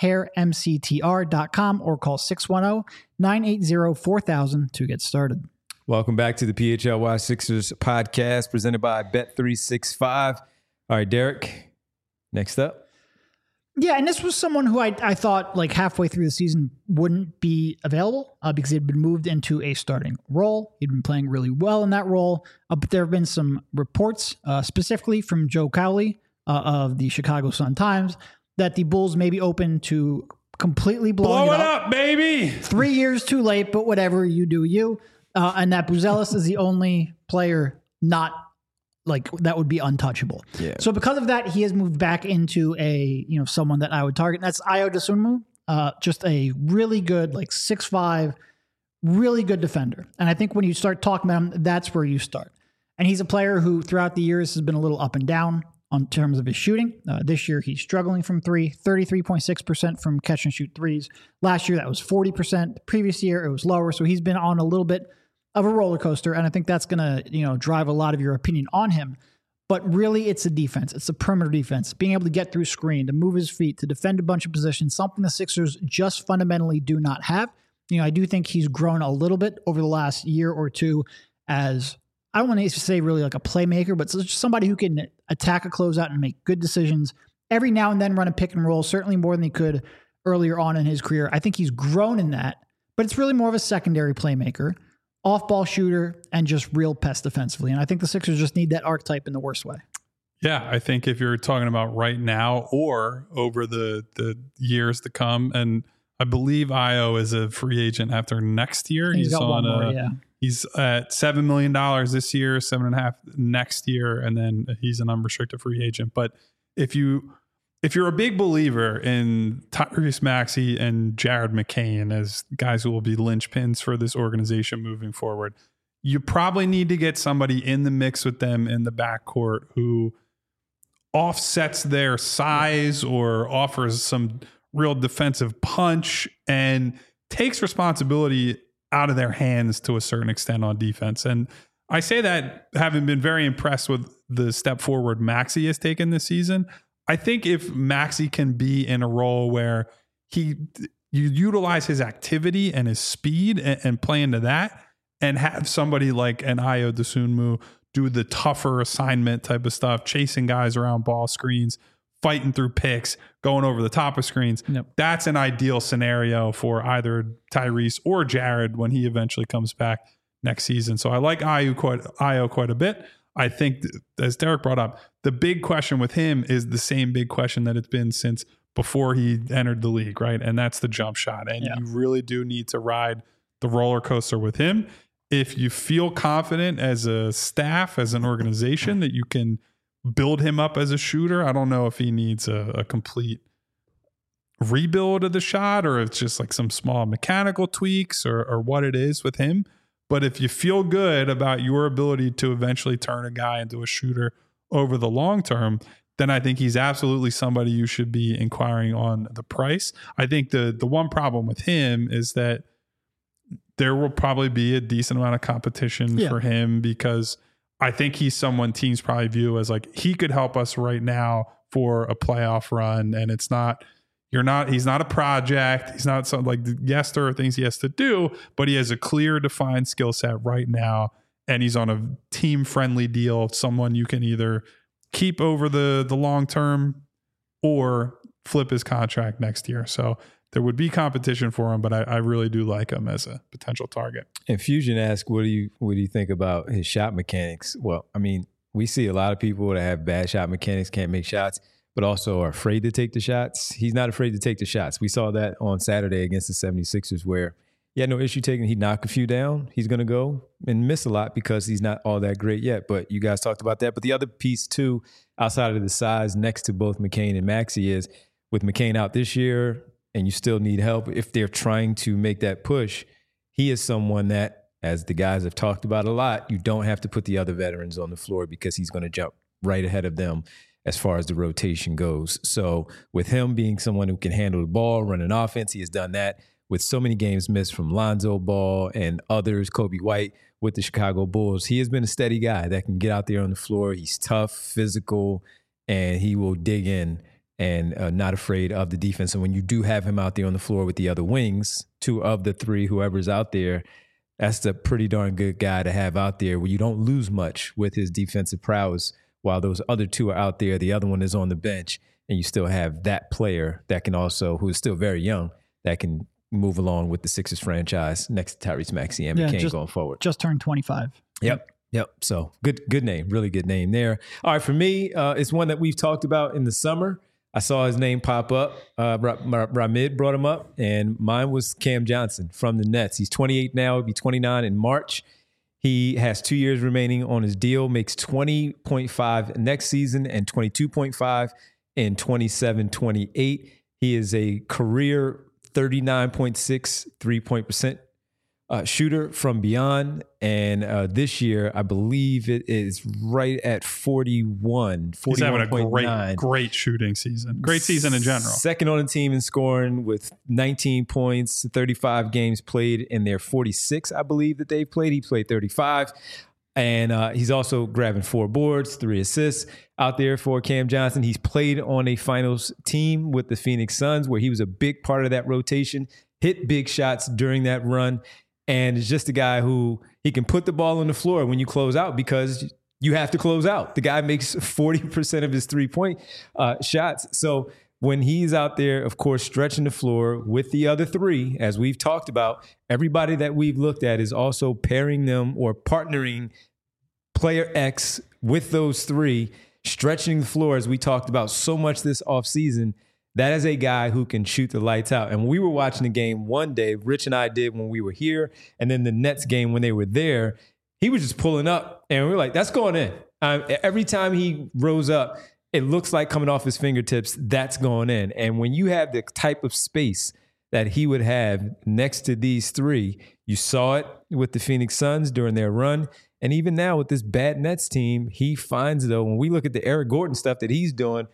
glatthairmctr.com or call 610-980-4000 to get started. Welcome back to the PHLY Sixers podcast presented by Bet365. All right, Derek, next up. Yeah, and this was someone who I thought like halfway through the season wouldn't be available because he'd been moved into a starting role. He'd been playing really well in that role, but there have been some reports, specifically from Joe Cowley of the Chicago Sun-Times, that the Bulls may be open to completely blowing it up, baby. 3 years too late, but whatever, you do you. And that Buzelis is the only player not like that would be untouchable. Yeah. So because of that, he has moved back into someone that I would target. And that's Ayo Dosunmu, just a really good, like 6'5", really good defender. And I think when you start talking about him, that's where you start. And he's a player who throughout the years has been a little up and down on terms of his shooting. This year, he's struggling from three, 33.6% from catch and shoot threes. Last year, that was 40%. The previous year, it was lower. So he's been on a little bit of a roller coaster, and I think that's going to, drive a lot of your opinion on him. But really, it's a defense. It's a perimeter defense. Being able to get through screen, to move his feet, to defend a bunch of positions, something the Sixers just fundamentally do not have. I do think he's grown a little bit over the last year or two as, I don't want to say really like a playmaker, but just somebody who can attack a closeout and make good decisions. Every now and then run a pick and roll, certainly more than he could earlier on in his career. I think he's grown in that, but it's really more of a secondary playmaker, off-ball shooter, and just real pest defensively. And I think the Sixers just need that archetype in the worst way. Yeah, I think if you're talking about right now or over the years to come, and I believe Ayo is a free agent after next year. He's on He's at $7 million this year, 7.5 next year, and then he's an unrestricted free agent. But if you're a big believer in Tyrese Maxey and Jared McCain as guys who will be linchpins for this organization moving forward, you probably need to get somebody in the mix with them in the backcourt who offsets their size or offers some real defensive punch and takes responsibility out of their hands to a certain extent on defense. And I say that having been very impressed with the step forward Maxey has taken this season. I think if Maxey can be in a role where you utilize his activity and his speed and play into that, and have somebody like an Ayo Dosunmu do the tougher assignment type of stuff, chasing guys around ball screens, fighting through picks, going over the top of screens. Yep. That's an ideal scenario for either Tyrese or Jared when he eventually comes back next season. So I like Ayo quite a bit. I think, as Derek brought up, the big question with him is the same big question that it's been since before he entered the league, right? And that's the jump shot. And you really do need to ride the roller coaster with him. If you feel confident as a staff, as an organization, that you can build him up as a shooter, I don't know if he needs a complete rebuild of the shot or it's just like some small mechanical tweaks or what it is with him. But if you feel good about your ability to eventually turn a guy into a shooter over the long term, then I think he's absolutely somebody you should be inquiring on the price. I think the one problem with him is that there will probably be a decent amount of competition for him because I think he's someone teams probably view as like he could help us right now for a playoff run. And he's not a project. He's not something like, yes, there are things he has to do, but he has a clear defined skill set right now. And he's on a team friendly deal. Someone you can either keep over the long term or flip his contract next year. So there would be competition for him, but I really do like him as a potential target. And Fusion asked, what do you think about his shot mechanics? Well, I mean, we see a lot of people that have bad shot mechanics, can't make shots, but also are afraid to take the shots. He's not afraid to take the shots. We saw that on Saturday against the 76ers where he had no issue taking. He'd knock a few down. He's going to go and miss a lot because he's not all that great yet. But you guys talked about that. But the other piece, too, outside of the size next to both McCain and Maxey is with McCain out this year and you still need help, if they're trying to make that push, he is someone that, as the guys have talked about a lot, you don't have to put the other veterans on the floor because he's going to jump right ahead of them as far as the rotation goes. So with him being someone who can handle the ball, run an offense, he has done that. With so many games missed from Lonzo Ball and others, Kobe White with the Chicago Bulls, he has been a steady guy that can get out there on the floor. He's tough, physical, and he will dig in and not afraid of the defense. And when you do have him out there on the floor with the other wings, two of the three, whoever's out there, that's a pretty darn good guy to have out there where you don't lose much with his defensive prowess while those other two are out there. The other one is on the bench, and you still have that player that can also, who is still very young, that can move along with the Sixers franchise next to Tyrese Maxey and McCain going forward. Just turned 25. Yep. So good name, really good name there. All right, for me, it's one that we've talked about in the summer. I saw his name pop up. Ramid brought him up, and mine was Cam Johnson from the Nets. He's 28 now. He'll be 29 in March. He has 2 years remaining on his deal, makes $20.5 next season and $22.5 in 27-28. He is a career 39.6 3-point percent shooter from beyond. And this year, I believe it is right at 41. He's having a great shooting season. Great season in general. Second on the team in scoring with 19 points, 35 games played in their 46, I believe, that they've played. He played 35. And he's also grabbing 4 boards, 3 assists out there for Cam Johnson. He's played on a finals team with the Phoenix Suns where he was a big part of that rotation, hit big shots during that run, and is just a guy who he can put the ball on the floor when you close out because you have to close out. The guy makes 40% of his 3-point shots. So when he's out there, of course, stretching the floor with the other 3, as we've talked about, everybody that we've looked at is also pairing them or partnering player X with those 3, stretching the floor, as we talked about so much this offseason. That is a guy who can shoot the lights out. And when we were watching the game one day, Rich and I did when we were here, and then the Nets game when they were there, he was just pulling up, and we were like, that's going in. Every time he rose up, it looks like coming off his fingertips, that's going in. And when you have the type of space that he would have next to these 3, you saw it with the Phoenix Suns during their run. And even now with this bad Nets team, he finds, though, when we look at the Eric Gordon stuff that he's doing,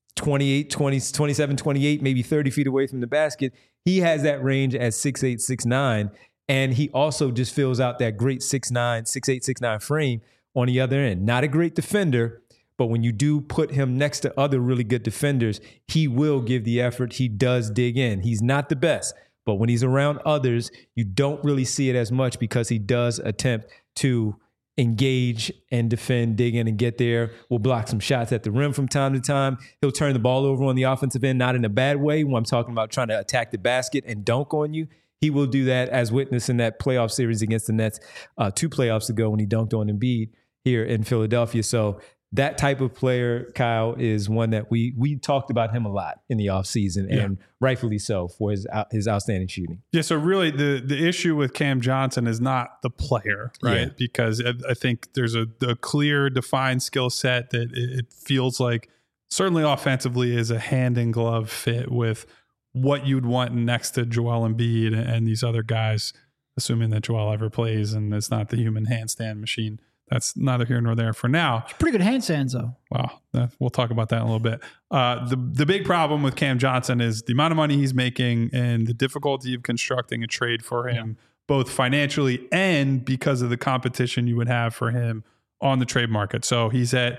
28, 20, 27, 28, maybe 30 feet away from the basket, he has that range at 6'8", 6'9", and he also just fills out that great 6'9", 6'8", 6'9" frame on the other end. Not a great defender, but when you do put him next to other really good defenders, he will give the effort. He does dig in. He's not the best, but when he's around others, you don't really see it as much because he does attempt to engage and defend, dig in and get there. Will block some shots at the rim from time to time. He'll turn the ball over on the offensive end, not in a bad way when I'm talking about trying to attack the basket and dunk on you. He will do that, as witnessed in that playoff series against the Nets 2 playoffs ago when he dunked on Embiid here in Philadelphia. So that type of player, Kyle, is one that we talked about him a lot in the offseason, and rightfully so for his outstanding shooting. Yeah, so really the issue with Cam Johnson is not the player, right? Yeah. Because I think there's a clear, defined skill set that it feels like certainly offensively is a hand in glove fit with what you'd want next to Joel Embiid and these other guys, assuming that Joel ever plays and it's not the human handstand machine. That's neither here nor there for now. Pretty good handstands, though. Wow. We'll talk about that in a little bit. The big problem with Cam Johnson is the amount of money he's making and the difficulty of constructing a trade for him, both financially and because of the competition you would have for him on the trade market. So he's at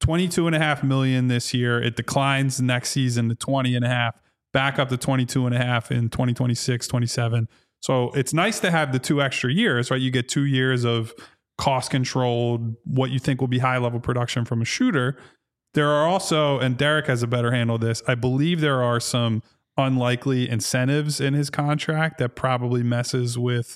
$22.5 million this year. It declines next season to $20.5 million, back up to $22.5 million in 2026, 27. So it's nice to have the 2 extra years, right? You get 2 years of cost controlled, what you think will be high level production from a shooter. There are also, and Derek has a better handle of this, I believe there are some unlikely incentives in his contract that probably messes with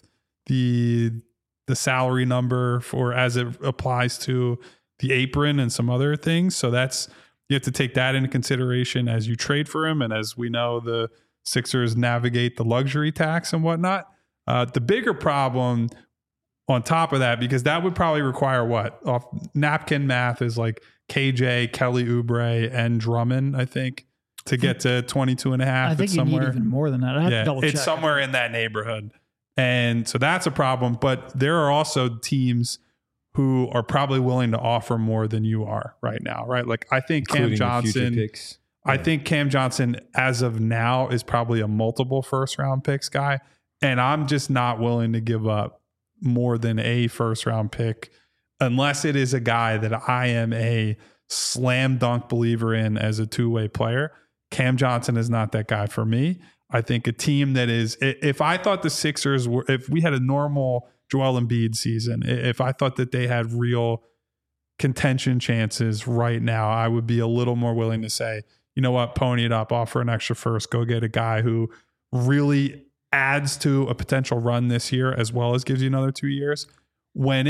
the salary number for as it applies to the apron and some other things. So you have to take that into consideration as you trade for him. And as we know, the Sixers navigate the luxury tax and whatnot. The bigger problem on top of that, because that would probably require off napkin math is like KJ, Kelly Oubre, and Drummond, I think, to get to 22.5. I think you need even more than that. I have to double check. It's somewhere in that neighborhood. And so that's a problem. But there are also teams who are probably willing to offer more than you are right now, right? Like I think Including Cam the future Johnson, picks. I think Cam Johnson as of now is probably a multiple first round picks guy. And I'm just not willing to give up more than a first round pick unless it is a guy that I am a slam dunk believer in as a two-way player. Cam Johnson is not that guy for me. I think a team that is, if I thought the Sixers were, if we had a normal Joel Embiid season, if I thought that they had real contention chances right now, I would be a little more willing to say, you know what, pony it up, offer an extra first, go get a guy who really adds to a potential run this year as well as gives you another 2 years. When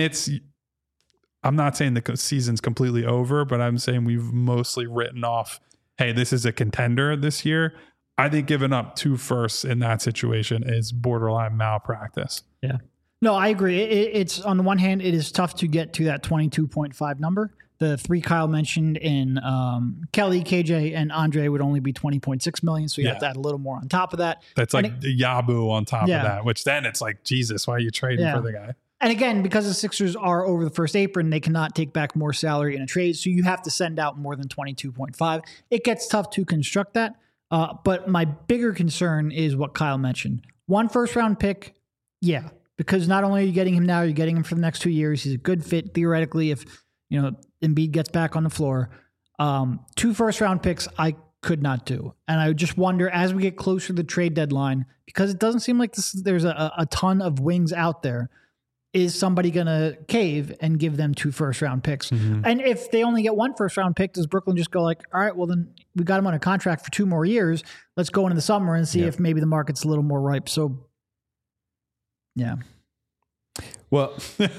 I'm not saying the season's completely over, but I'm saying we've mostly written off, hey, this is a contender this year. I think giving up 2 firsts in that situation is borderline malpractice. Yeah. No, I agree. It's on the one hand, it is tough to get to that 22.5 number. The 3 Kyle mentioned in Kelly, KJ, and Andre would only be 20.6 million. So you have to add a little more on top of that. That's like Yabu on top of that, which then it's like, Jesus, why are you trading for the guy? And again, because the Sixers are over the first apron, they cannot take back more salary in a trade. So you have to send out more than 22.5. It gets tough to construct that. But my bigger concern is what Kyle mentioned. 1 first round pick. Yeah. Because not only are you getting him now, you're getting him for the next 2 years. He's a good fit theoretically if, Embiid gets back on the floor. 2 first round picks I could not do. And I just wonder as we get closer to the trade deadline, because it doesn't seem like there's a ton of wings out there, is somebody going to cave and give them 2 first round picks? Mm-hmm. And if they only get 1 first round pick, does Brooklyn just go like, all right, well then we got him on a contract for 2 more years. Let's go into the summer and see if maybe the market's a little more ripe. So yeah. Well,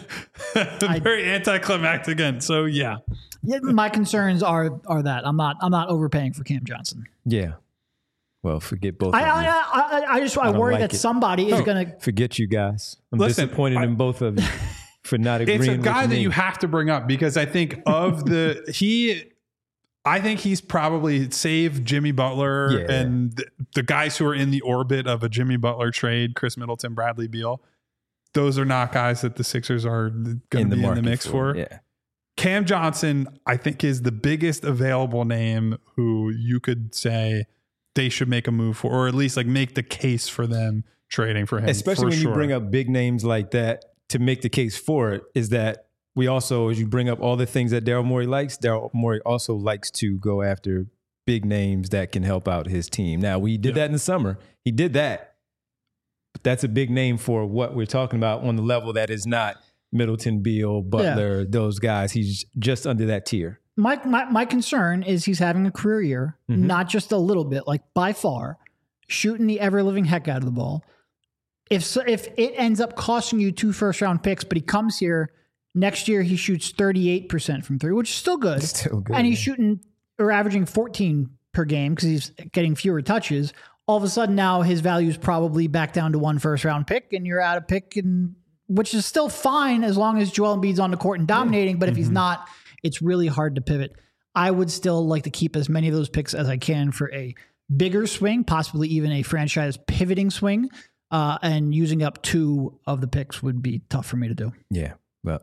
very anticlimactic again. So yeah, my concerns are that I'm not overpaying for Cam Johnson. Yeah. Well, forget both. I worry that somebody is going to forget you guys. I'm disappointed in both of you for not agreeing. It's a guy with that me. you have to bring up because I think I think he's probably saved Jimmy Butler and the guys who are in the orbit of a Jimmy Butler trade, Chris Middleton, Bradley Beal. Those are not guys that the Sixers are going to be in the mix for. Yeah. Cam Johnson, I think, is the biggest available name who you could say they should make a move for, or at least like make the case for them trading for him. Especially when you bring up big names like that to make the case for it, is that we also, as you bring up all the things that Daryl Morey likes, Daryl Morey also likes to go after big names that can help out his team. Now, we did that in the summer. He did that. But that's a big name for what we're talking about on the level that is not Middleton, Beal, Butler, those guys. He's just under that tier. My concern is he's having a career year, not just a little bit, like by far, shooting the ever-living heck out of the ball. If it ends up costing you 2 first-round picks, but he comes here Next year, he shoots 38% from 3, which is still good. Still good, And he's yeah. shooting or averaging 14 per game because he's getting fewer touches. All of a sudden now his value is probably back down to 1 first-round pick, and you're out of pick, and which is still fine as long as Joel Embiid's on the court and dominating. But if he's not, it's really hard to pivot. I would still like to keep as many of those picks as I can for a bigger swing, possibly even a franchise pivoting swing. And using up 2 of the picks would be tough for me to do. Yeah, well,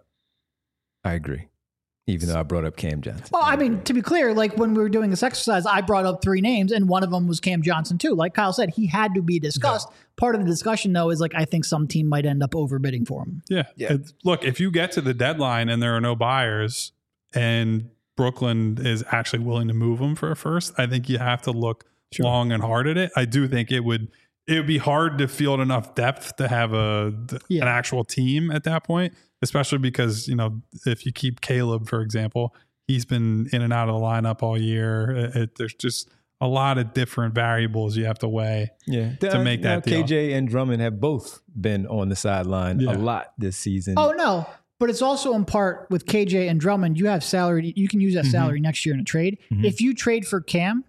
I agree. Even though I brought up Cam Johnson. Well, I mean, to be clear, like when we were doing this exercise, I brought up 3 names, and one of them was Cam Johnson too. Like Kyle said, he had to be discussed. Yeah. Part of the discussion, though, is like I think some team might end up overbidding for him. Yeah. Look, if you get to the deadline and there are no buyers, and Brooklyn is actually willing to move him for a first, I think you have to look long and hard at it. I do think it would be hard to field enough depth to have an actual team at that point. Especially because, if you keep Caleb, for example, he's been in and out of the lineup all year. There's just a lot of different variables you have to weigh to make that deal. KJ and Drummond have both been on the sideline a lot this season. Oh, no. But it's also in part with KJ and Drummond, you have salary. You can use that salary next year in a trade. If you trade for Cam,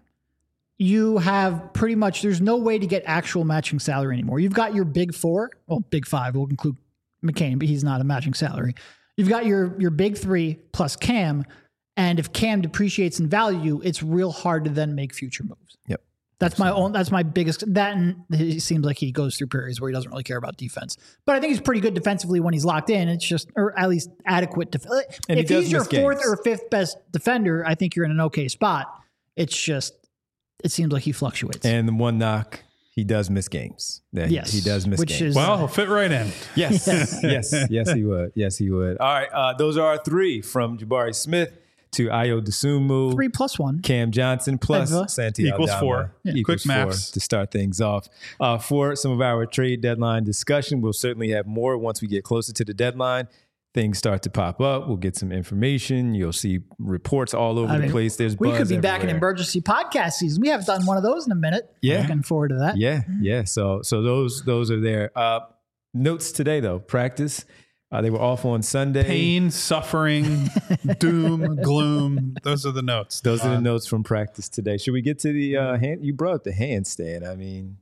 you have pretty much, there's no way to get actual matching salary anymore. You've got your big 4, well, big 5, we'll include McCain, but he's not a matching salary. You've got your big 3 plus Cam, and if Cam depreciates in value, it's real hard to then make future moves. Yep. That's my biggest, that, and it seems like he goes through periods where he doesn't really care about defense. But I think he's pretty good defensively when he's locked in. It's just, or at least adequate. And if he's your 4th or 5th best defender, I think you're in an okay spot. It's just, it seems like he fluctuates. And the one knock, he does miss games. Yes. He does miss games. Well, he'll fit right in. Yes. Yes, he would. Yes, he would. All right. Those are our 3 from Jabari Smith to Ayo Dosunmu. 3 plus 1. Cam Johnson plus Santi equals Aldama. 4. Yeah. Equals Quick 4 maths. to start things off. For some of our trade deadline discussion, we'll certainly have more once we get closer to the deadline. Things start to pop up. We'll get some information. You'll see reports all over the place. There's we buzz could be back in everywhere. emergency podcast season. We haven't done one of those in a minute. Yeah. Looking forward to that. Yeah. So those are there. Notes today though. Practice. They were off on Sunday. Pain, suffering, doom, gloom. Those are the notes. Those are the notes from practice today. Should we get to the hand? You brought up the handstand. I mean,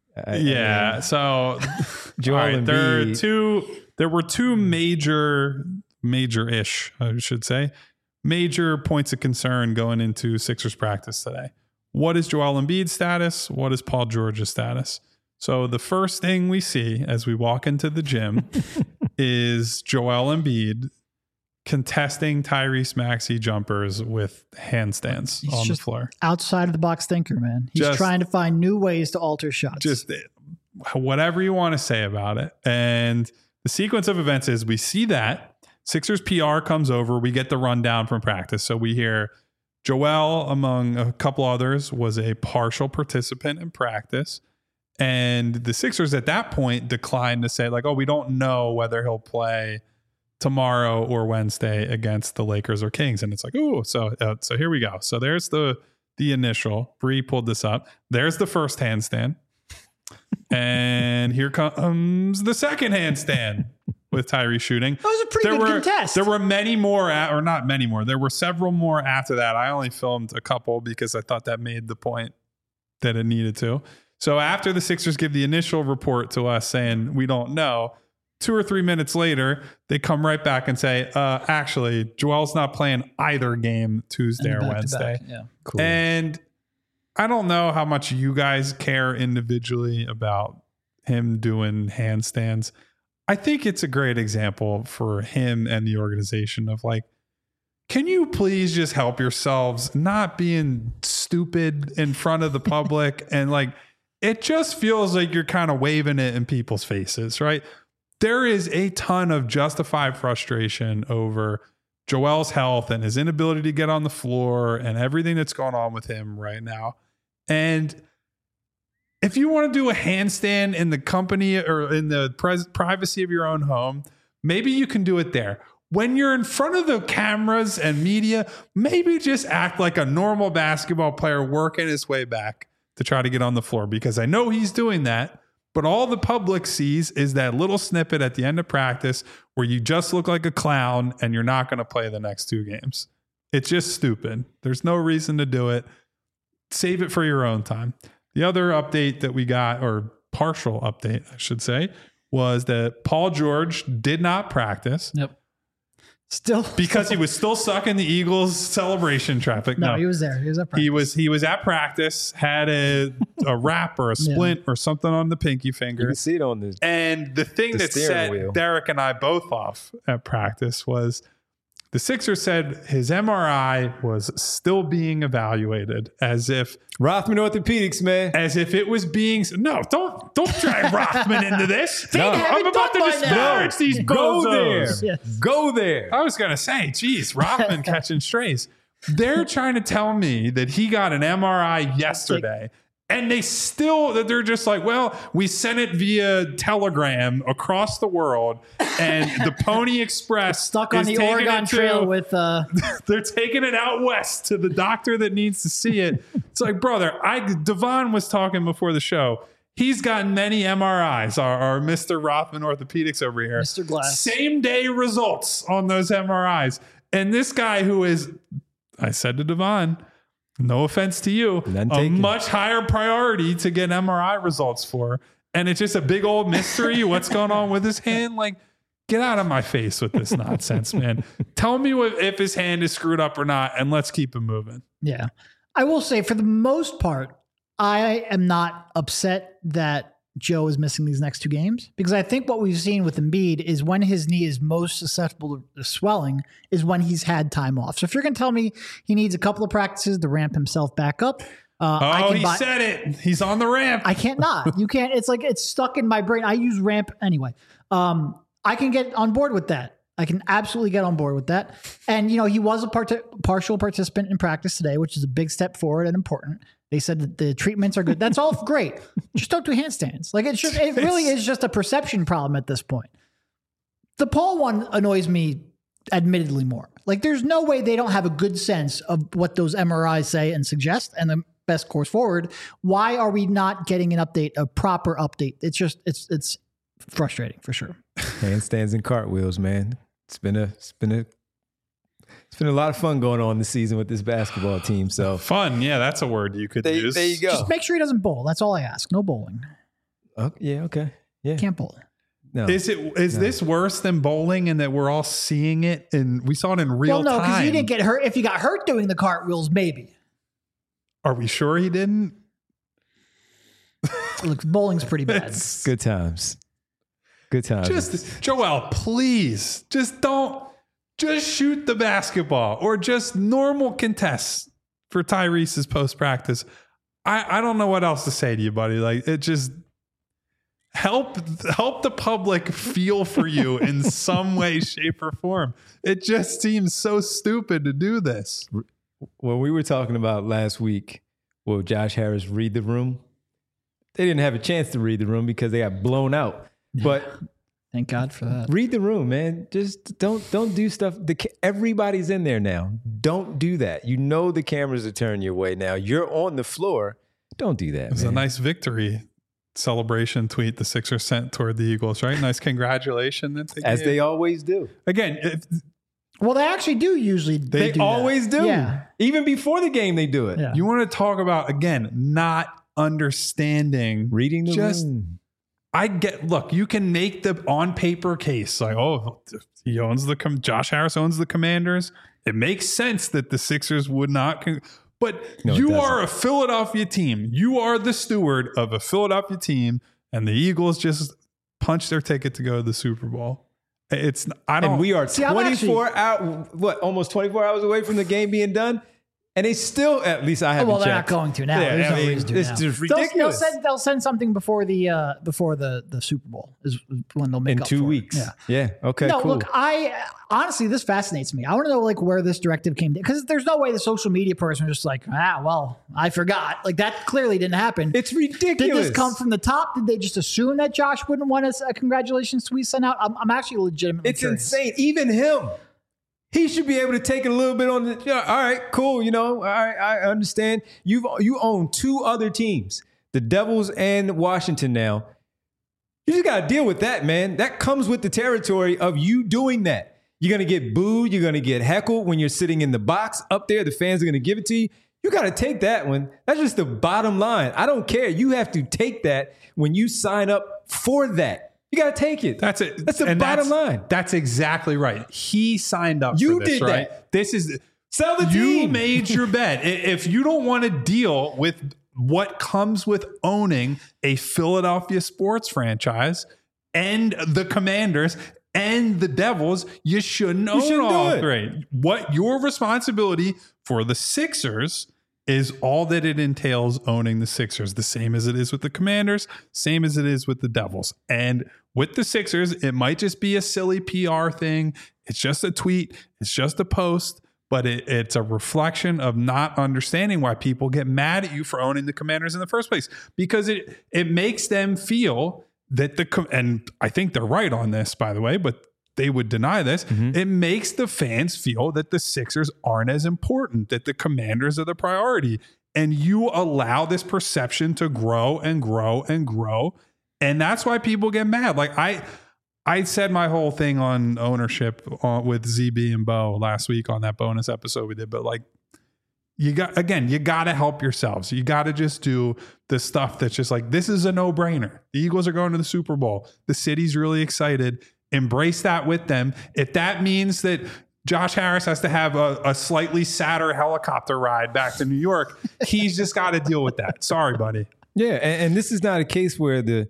so Joel Embiid. There were 2 major-ish, I should say, major points of concern going into Sixers practice today. What is Joel Embiid's status? What is Paul George's status? So the first thing we see as we walk into the gym is Joel Embiid contesting Tyrese Maxey jumpers with handstands on the floor. Outside of the box thinker, man. He's trying to find new ways to alter shots. Just whatever you want to say about it. And the sequence of events is we see that Sixers PR comes over. We get the rundown from practice. So we hear Joel, among a couple others, was a partial participant in practice. And the Sixers at that point declined to say like, oh, we don't know whether he'll play tomorrow or Wednesday against the Lakers or Kings. And it's like, oh, so here we go. So there's the initial. Bree pulled this up. There's the first handstand. And here comes the second handstand with Tyrese shooting. That was a pretty good contest. There were many more, or not many more. There were several more after that. I only filmed a couple because I thought that made the point that it needed to. So after the Sixers give the initial report to us saying we don't know, 2 or 3 minutes later, they come right back and say, actually, Joel's not playing either game Tuesday or Wednesday. Yeah. Cool. And I don't know how much you guys care individually about him doing handstands. I think it's a great example for him and the organization of like, can you please just help yourselves not being stupid in front of the public? And like, it just feels like you're kind of waving it in people's faces, right? There is a ton of justified frustration over Joel's health and his inability to get on the floor and everything that's going on with him right now. And if you want to do a handstand in the company or in the privacy of your own home, maybe you can do it there. When you're in front of the cameras and media, maybe just act like a normal basketball player working his way back to try to get on the floor, because I know he's doing that. But all the public sees is that little snippet at the end of practice where you just look like a clown and you're not going to play the next 2 games. It's just stupid. There's no reason to do it. Save it for your own time. The other update that we got, or partial update, I should say, was that Paul George did not practice. Yep. Still, because he was still stuck in the Eagles celebration traffic. No, he was there. He was at practice. He was at practice, had a wrap or a splint or something on the pinky finger. You can see it on this. And the thing that set wheel. Derek and I both off at practice was the Sixers said his MRI was still being evaluated as if Rothman Orthopedics, man. As if it was being don't drag Rothman into this. I'm about to disparage these bozos. Go there. I was gonna say, geez, Rothman catching strays. They're trying to tell me that he got an MRI yesterday. And they're just like, well, we sent it via telegram across the world, and the Pony Express stuck on the Oregon Trail with. They're taking it out west to the doctor that needs to see it. It's like, brother, Devon was talking before the show. He's gotten many MRIs. Our Mr. Rothman Orthopedics over here, Mr. Glass, same day results on those MRIs, and this guy who is, I said to Devon, no offense to you, a much higher priority to get MRI results for. And it's just a big old mystery. What's going on with his hand? Like, get out of my face with this nonsense, man. Tell me if his hand is screwed up or not, and let's keep it moving. Yeah. I will say, for the most part, I am not upset that Joe is missing these next 2 games, because I think what we've seen with Embiid is when his knee is most susceptible to swelling is when he's had time off. So if you're going to tell me he needs a couple of practices to ramp himself back up, he said it. He's on the ramp. I can't not. You can't. It's like it's stuck in my brain. I use ramp anyway. I can get on board with that. I can absolutely get on board with that. And, he was a partial participant in practice today, which is a big step forward and important. They said that the treatments are good. That's all great. Just don't do handstands. Like, it really is just a perception problem at this point. The Paul one annoys me admittedly more. Like, there's no way they don't have a good sense of what those MRIs say and suggest and the best course forward. Why are we not getting an update, a proper update? It's just, it's frustrating for sure. Handstands and cartwheels, man. It's been a lot of fun going on this season with this basketball team. So fun, yeah, that's a word you could use. There you go. Just make sure he doesn't bowl. That's all I ask. No bowling. Yeah, okay. Yeah, can't bowl. No. Is this worse than bowling in that we're all seeing it and we saw it in real time? Well, no, because he didn't get hurt. If he got hurt doing the cartwheels, maybe. Are we sure he didn't? Look, bowling's pretty bad. Good times. Good times. Just Joel, please, just shoot the basketball or just normal contests for Tyrese's post practice. I don't know what else to say to you, buddy. Like, it just help the public feel for you in some way, shape, or form. It just seems so stupid to do this. When we were talking about last week, will Josh Harris read the room? They didn't have a chance to read the room because they got blown out. But thank God for that. Read the room, man. Just don't do stuff. Everybody's in there now. Don't do that. You know the cameras are turning your way now. You're on the floor. Don't do that. It's a nice victory celebration tweet the Sixers sent toward the Eagles, right? Nice congratulation that they as gave. They always do. Again, well, they actually do usually. They do always that. do. Yeah. Even before the game, they do it. Yeah. You want to talk about, again, not understanding. Reading the room. Look, you can make the on paper case like, oh, he owns Josh Harris owns the Commanders. It makes sense that the Sixers would not. But no, you are a Philadelphia team. You are the steward of a Philadelphia team, and the Eagles just punched their ticket to go to the Super Bowl. And we are 24 hours, almost 24 hours away from the game being done. And they still, at least I haven't checked. Well, they're not going to now. Yeah, There's no reason to it's now. just ridiculous. They'll send something before the Super Bowl is when they'll make in up 2 for weeks. It. Yeah. Okay. No, cool. look, honestly, this fascinates me. I want to know where this directive came from, because there's no way the social media person was just like, I forgot. Like, that clearly didn't happen. It's ridiculous. Did this come from the top? Did they just assume that Josh wouldn't want a congratulations tweet sent out? I'm actually legitimately curious. Insane. Even him. He should be able to take it a little bit on the. All right, cool. All right, I understand. You own 2 other teams, the Devils and Washington now. You just got to deal with that, man. That comes with the territory of you doing that. You're going to get booed. You're going to get heckled when you're sitting in the box up there. The fans are going to give it to you. You got to take that one. That's just the bottom line. I don't care. You have to take that when you sign up for that. You got to take it. That's it. That's the bottom line. That's exactly right. He signed up You for this, did right? that. This is Sell the you team. made your bet. If you don't want to deal with what comes with owning a Philadelphia sports franchise and the Commanders and the Devils, you shouldn't own shouldn't do all it. three. What your responsibility for the Sixers is all that it entails owning the Sixers, the same as it is with the Commanders, same as it is with the Devils. And with the Sixers, it might just be a silly PR thing. It's just a tweet. It's just a post. But it's a reflection of not understanding why people get mad at you for owning the Commanders in the first place. Because it makes them feel that and I think they're right on this, by the way, but they would deny this. Mm-hmm. It makes the fans feel that the Sixers aren't as important, that the Commanders are the priority. And you allow this perception to grow and grow and grow. And that's why people get mad. Like I said my whole thing on ownership with ZB and Bo last week on that bonus episode we did, but like you got to help yourselves. You got to just do the stuff that's just like, this is a no-brainer. The Eagles are going to the Super Bowl. The city's really excited. Embrace that with them. If that means that Josh Harris has to have a slightly sadder helicopter ride back to New York, he's just got to deal with that. Sorry, buddy. Yeah, and this is not a case where the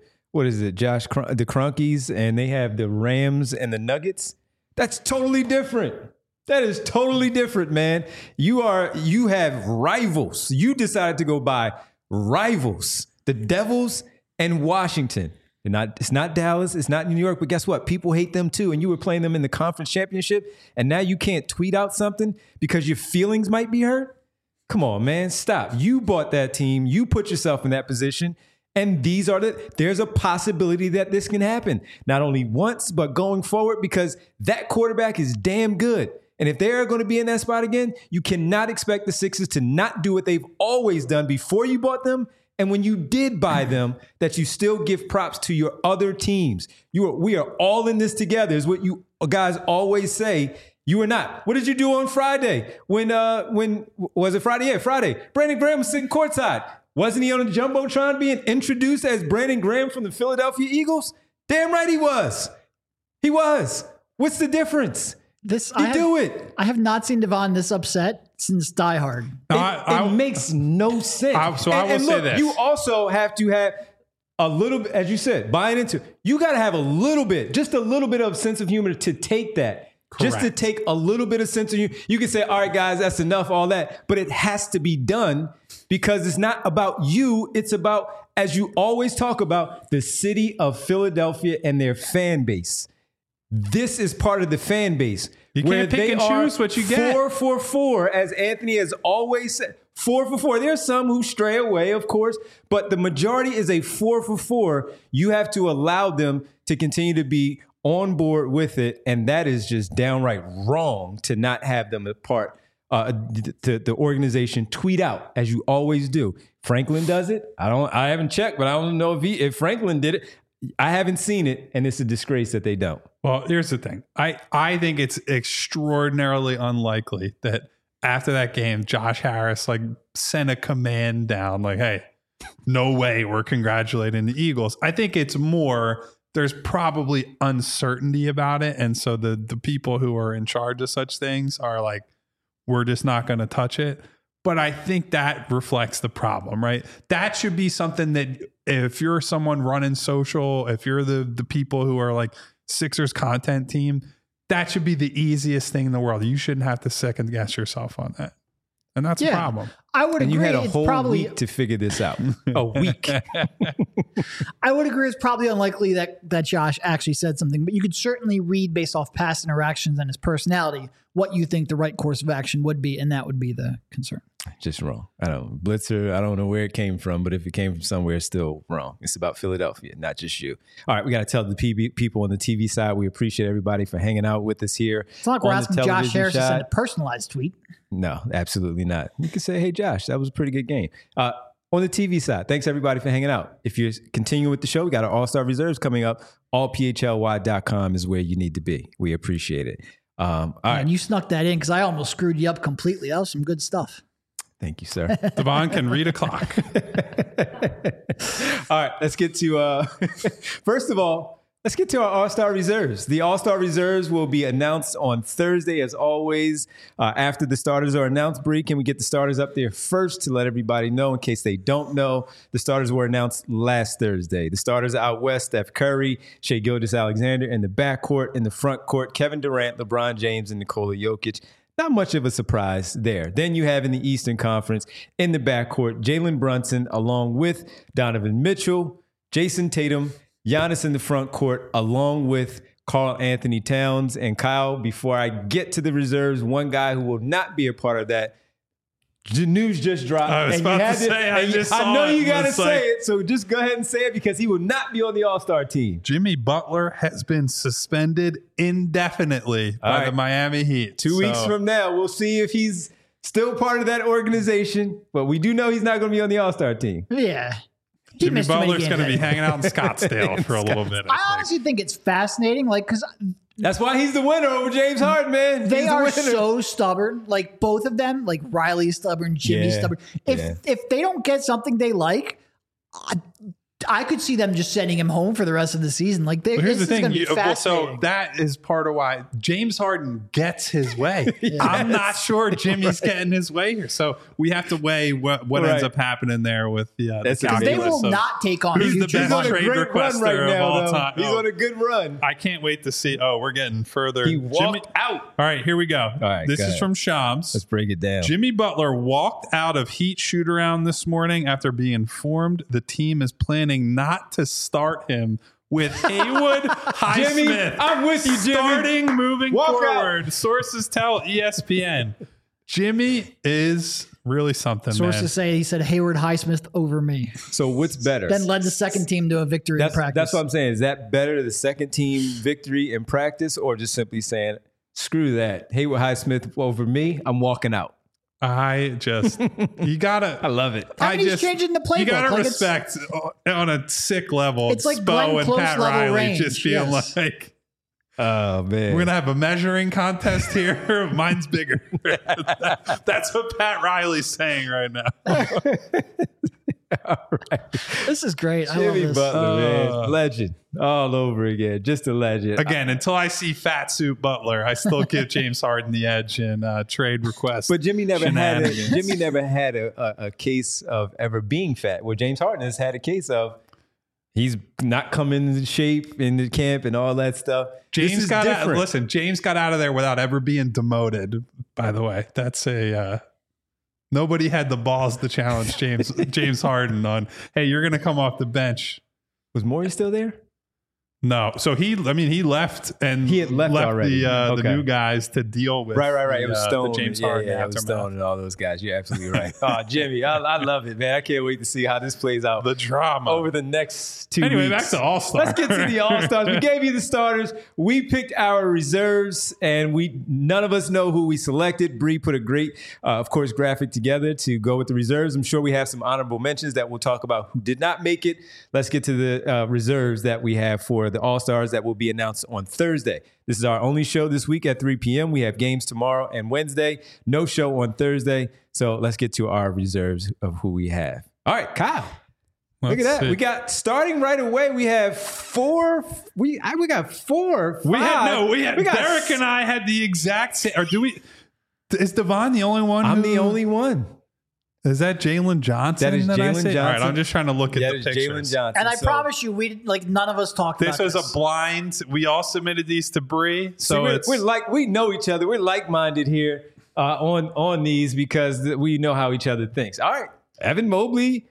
Crunkies and they have the Rams and the Nuggets. That's totally different. That is totally different, man. You have rivals. You decided to go buy rivals, the Devils and Washington. It's not Dallas, it's not New York, but guess what? People hate them too. And you were playing them in the conference championship, and now you can't tweet out something because your feelings might be hurt. Come on, man, stop. You bought that team. You put yourself in that position. And there's a possibility that this can happen. Not only once, but going forward, because that quarterback is damn good. And if they're going to be in that spot again, you cannot expect the Sixers to not do what they've always done before you bought them. And when you did buy them, that you still give props to your other teams. We are all in this together, is what you guys always say. You are not. What did you do on Friday? When was it Friday? Yeah, Friday. Brandon Graham was sitting courtside. Wasn't he on the Jumbotron being introduced as Brandon Graham from the Philadelphia Eagles? Damn right he was. He was. What's the difference? Do it. I have not seen Devon this upset since Die Hard. It makes no sense. I will say this. You also have to have a little bit, as you said, buying into it. You got to have a little bit, just a little bit of sense of humor to take that. Correct. Just to take a little bit of sense of humor. You can say, all right, guys, that's enough, all that. But it has to be done because it's not about you. It's about, as you always talk about, the city of Philadelphia and their fan base. This is part of the fan base. You can't pick and choose what you get. 4-for-4, as Anthony has always said. 4-for-4. There are some who stray away, of course, but the majority is a 4-for-4. You have to allow them to continue to be on board with it, and that is just downright wrong to not have them a part. The organization tweet out as you always do. Franklin does it. I haven't checked, but I don't know if Franklin did it. I haven't seen it, and it's a disgrace that they don't. Well, here's the thing. I think it's extraordinarily unlikely that after that game, Josh Harris sent a command down like, hey, no way we're congratulating the Eagles. I think it's more there's probably uncertainty about it. And so the people who are in charge of such things are like, we're just not going to touch it. But I think that reflects the problem, right? That should be something that if you're someone running social, if you're the people who are like Sixers content team, that should be the easiest thing in the world. You shouldn't have to second guess yourself on that. And that's a problem. I would agree. You had a whole week to figure this out. A week. I would agree. It's probably unlikely that Josh actually said something, but you could certainly read based off past interactions and his personality what you think the right course of action would be, and that would be the concern. Just wrong. Blitzer, I don't know where it came from, but if it came from somewhere, it's still wrong. It's about Philadelphia, not just you. All right, we got to tell the people on the TV side, we appreciate everybody for hanging out with us here. It's not like we're asking Josh Harris to send a personalized tweet. No, absolutely not. You can say, hey, Josh, that was a pretty good game. on the TV side. Thanks everybody for hanging out. If you're continuing with the show, we got our All-Star Reserves coming up. allphly.com is where you need to be. We appreciate it. All right. And you snuck that in because I almost screwed you up completely. That was some good stuff. Thank you, sir. Devon can read a clock. All right, let's get to, first of all, let's get to our All-Star Reserves. The All-Star Reserves will be announced on Thursday, as always. After the starters are announced, Bree, can we get the starters up there first to let everybody know in case they don't know? The starters were announced last Thursday. The starters out west, Steph Curry, Shai Gilgeous-Alexander in the backcourt. In the front court, Kevin Durant, LeBron James, and Nikola Jokic. Not much of a surprise there. Then you have in the Eastern Conference, in the backcourt, Jalen Brunson along with Donovan Mitchell, Jason Tatum, Giannis in the front court, along with Karl Anthony Towns. And Kyle, before I get to the reserves, one guy who will not be a part of that, the news just dropped. I was about to say, I know you got to say it, so just go ahead and say it because he will not be on the All-Star team. Jimmy Butler has been suspended indefinitely by the Miami Heat. 2 weeks from now, we'll see if he's still part of that organization, but we do know he's not going to be on the All-Star team. Yeah. Jimmy Butler's going to be hanging out in Scottsdale for a little bit. I honestly think it's fascinating, like, because that's why he's the winner over James Harden, man. They are so stubborn, like both of them, like Riley's stubborn, Jimmy's stubborn. If they don't get something they like, I could see them just sending him home for the rest of the season. Like, here's the thing. So that is part of why James Harden gets his way. Yes. I'm not sure Jimmy's getting his way here. So we have to weigh what ends up happening there with the they will not take on who's the best trade requester of all time. He's on a good run. I can't wait to see. Oh, we're getting further. He walked out. All right, here we go. All right, this is from Shams. Let's break it down. Jimmy Butler walked out of Heat shoot-around this morning after being informed the team is planning not to start him with Haywood Highsmith. Jimmy, I'm with you, Jimmy. Starting moving forward. Out. Sources tell ESPN. Jimmy is really something, Sources say he said Hayward Highsmith over me. So what's better? Then led the second team to a victory in practice. That's what I'm saying. Is that better, the second team victory in practice, or just simply saying, screw that, Hayward Highsmith over me, I'm walking out? You gotta. I love it. He's changing the playbook. You gotta respect on a sick level. It's like Spo and Pat Riley range. just feeling like, oh man, we're gonna have a measuring contest here. Mine's bigger. That's what Pat Riley's saying right now. All right. This is great. Jimmy I love this. Butler, man. Legend. All over again. Just a legend. Again, until I see Fat Suit Butler, I still give James Harden the edge in trade requests. But Jimmy never had a case of ever being fat. Well, James Harden has had a case of he's not coming into shape in the camp and all that stuff. James got out of there without ever being demoted, by the way. That's nobody had the balls to challenge James Harden on, hey, you're going to come off the bench. Was Morey still there? No. So he left and he had left already. The new guys to deal with. Right. It was Stone. James Harden. Yeah, it was Stone and all those guys. You're absolutely right. Oh, Jimmy, I love it, man. I can't wait to see how this plays out. The drama over the next 2 weeks. Anyway, back to All-Star. Let's get to the All-Stars. We gave you the starters. We picked our reserves, and none of us know who we selected. Bree put a great, of course, graphic together to go with the reserves. I'm sure we have some honorable mentions that we'll talk about who did not make it. Let's get to the reserves that we have for the All-Stars that will be announced on Thursday. This is our only show this week at 3 p.m. We have games tomorrow and Wednesday. No show on Thursday. So let's get to our reserves of who we have. All right, Kyle. Look at that. We got starting right away. We have four. We got four. Derek and I had the exact same. Or do we? Is Devon the only one? I'm the only one. Is that Jalen Johnson? That is Jalen Johnson. All right, I'm just trying to look at the pictures. Jalen Johnson. And I promise you, none of us talked about this. This was a blind. We all submitted these to Bree. So we know each other. We're like-minded here on these because we know how each other thinks. All right, Evan Mobley,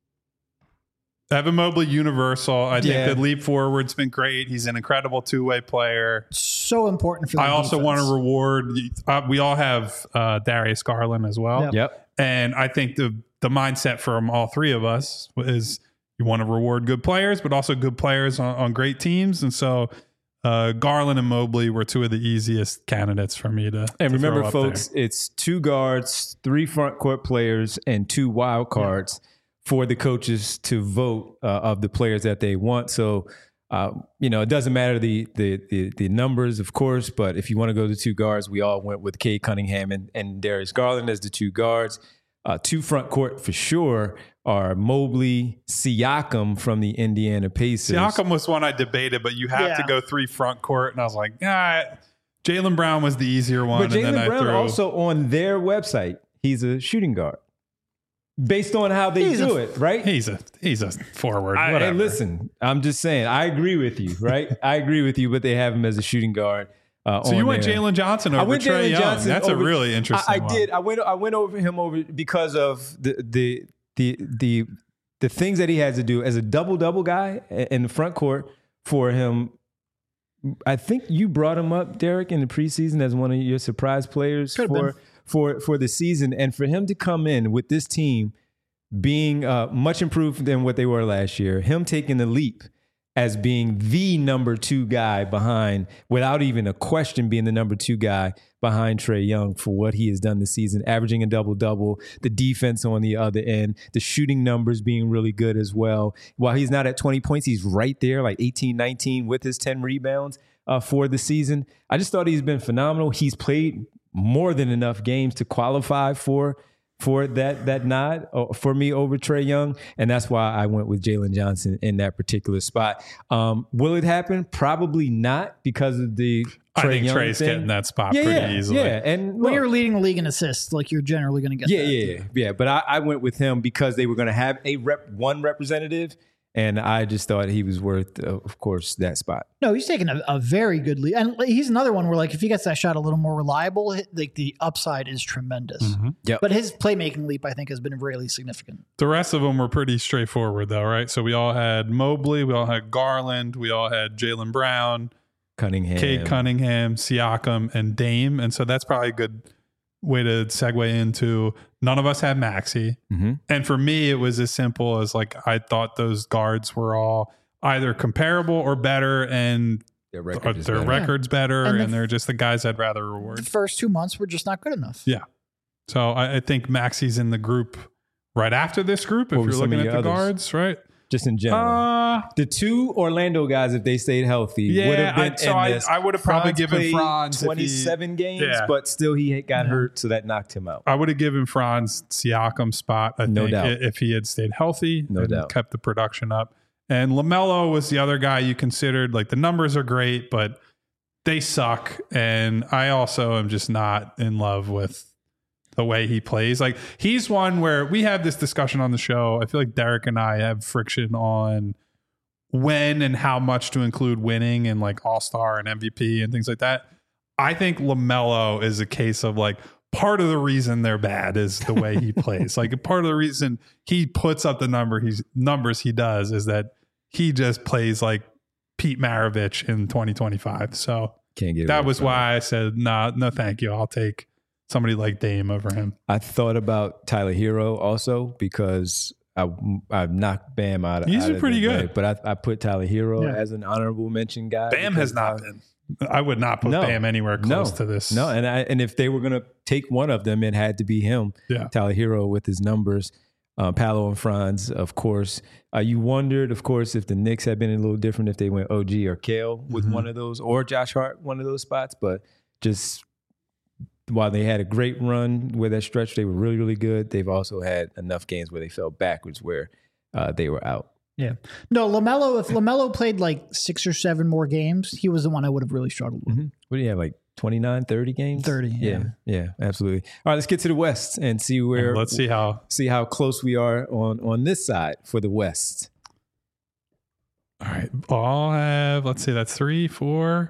universal. I think the leap forward's been great. He's an incredible two-way player. So important for the I also want to reward. We all have Darius Garland as well. Yep. And I think the mindset from all three of us is you want to reward good players, but also good players on great teams. And so Garland and Mobley were two of the easiest candidates for me to. And to remember, throw up folks, there. It's 2 guards, 3 front court players, and 2 wild cards for the coaches to vote of the players that they want. So, it doesn't matter the numbers, of course, but if you want to go to two guards, we all went with Cade Cunningham and Darius Garland as the two guards. Two front court for sure are Mobley, Siakam from the Indiana Pacers. Siakam was one I debated, but you have to go 3 front court. And I was like, Jaylen Brown was the easier one. But Jaylen Brown also on their website, he's a shooting guard. Based on how they do it, right? He's a forward. Hey, listen, I'm just saying, I agree with you, right? I agree with you, but they have him as a shooting guard. So you went Jalen Johnson over Trae Young. That's a really interesting one. I did. I went over him because of the things that he has to do as a double guy in the front court for him. I think you brought him up, Derek, in the preseason as one of your surprise players for the season, and for him to come in with this team being much improved than what they were last year, him taking the leap as being the number 2 guy behind, without even a question, being the number 2 guy behind Trae Young for what he has done this season, averaging a double-double, the defense on the other end, the shooting numbers being really good as well. While he's not at 20 points, he's right there, like 18, 19 with his 10 rebounds for the season. I just thought he's been phenomenal. He's played more than enough games to qualify for that nod for me over Trae Young, and that's why I went with Jalen Johnson in that particular spot. Will it happen? Probably not, because of the I think Young Trae's thing. getting that spot pretty easily. Yeah, and when you're leading the league in assists, like you're generally going to get that. Yeah. But I went with him because they were going to have one representative, and I just thought he was worth, of course, that spot. No, he's taking a very good lead. And he's another one where, like, if he gets that shot a little more reliable, like the upside is tremendous. Mm-hmm. Yep. But his playmaking leap, I think, has been really significant. The rest of them were pretty straightforward, though, right? So we all had Mobley, we all had Garland, we all had Jaylen Brown, Cade Cunningham, Siakam, and Dame. And so that's probably a good way to segue into none of us had Maxey. Mm-hmm. And for me, it was as simple as, like, I thought those guards were all either comparable or better, and their record's better, and they're just the guys I'd rather reward. The first 2 months were just not good enough. Yeah. So I think Maxey's in the group right after this group, if you're looking at the guards, right? Just in general. The 2 Orlando guys, if they stayed healthy, would have been I would have probably given Franz 27 games, but still he got hurt, so that knocked him out. I would have given Franz Siakam spot, I think, if he had stayed healthy and kept the production up. And LaMelo was the other guy you considered. Like, the numbers are great, but they suck. And I also am just not in love with the way he plays. Like, he's one where we have this discussion on the show. I feel like Derek and I have friction on when and how much to include winning and, like, All-Star and MVP and things like that. I think LaMelo is a case of, like, part of the reason they're bad is the way he plays. Like, part of the reason he puts up the numbers he does is that he just plays like Pete Maravich in 2025. So that was why I said, no, thank you. I'll take somebody like Dame over him. I thought about Tyler Hero also, because I knocked Bam out of He's pretty good. Way, but I put Tyler Hero as an honorable mention guy. Bam has not been. I would not put Bam anywhere close to this. No, and if they were going to take one of them, it had to be him. Yeah. Tyler Hero with his numbers. Paolo and Franz, of course. You wondered, of course, if the Knicks had been a little different, if they went OG or Kale with one of those, or Josh Hart, one of those spots. But just while they had a great run with that stretch, they were really, really good. They've also had enough games where they fell backwards, where they were out. Yeah. No, LaMelo, if LaMelo played like 6 or 7 more games, he was the one I would have really struggled with. Mm-hmm. What do you have, like 29, 30 games? 30, yeah, absolutely. All right, let's get to the West and see where. Let's see how close we are on this side for the West. All right, I'll have. Let's see, that's 3, 4.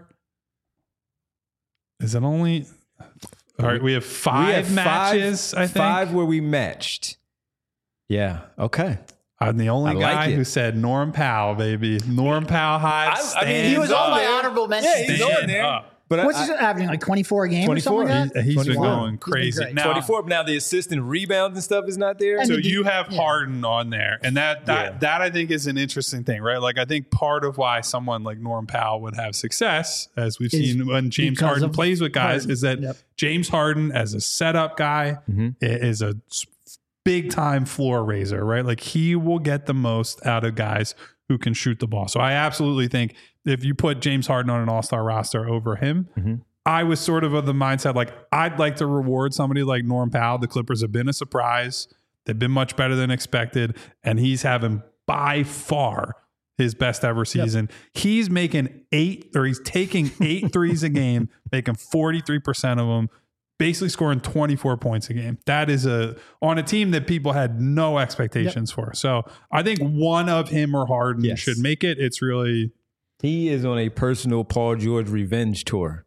Is it only? All right, we have 5 matches. I think 5 where we matched. Yeah. Okay. I'm the only guy who said Norm Powell, baby. Norm Powell hides. I mean, he was on my honorable mention. Yeah, he's on there. But what's he averaging, like 24 a game 24. Or something like that? He's been going crazy. Been now, 24. Now the assist and rebounds and stuff is not there. So you have Harden on there. And that I think is an interesting thing, right? Like, I think part of why someone like Norm Powell would have success, as we've seen when James Harden plays with guys, is that James Harden as a setup guy is a big time floor raiser, right? Like he will get the most out of guys who can shoot the ball. So I absolutely think if you put James Harden on an all-star roster over him, I was sort of the mindset, like I'd like to reward somebody like Norm Powell. The Clippers have been a surprise. They've been much better than expected. And he's having by far his best ever season. He's making he's taking 8 threes a game, making 43% of them, basically scoring 24 points a game. That is on a team that people had no expectations for. So I think one of him or Harden should make it. It's really... He is on a personal Paul George revenge tour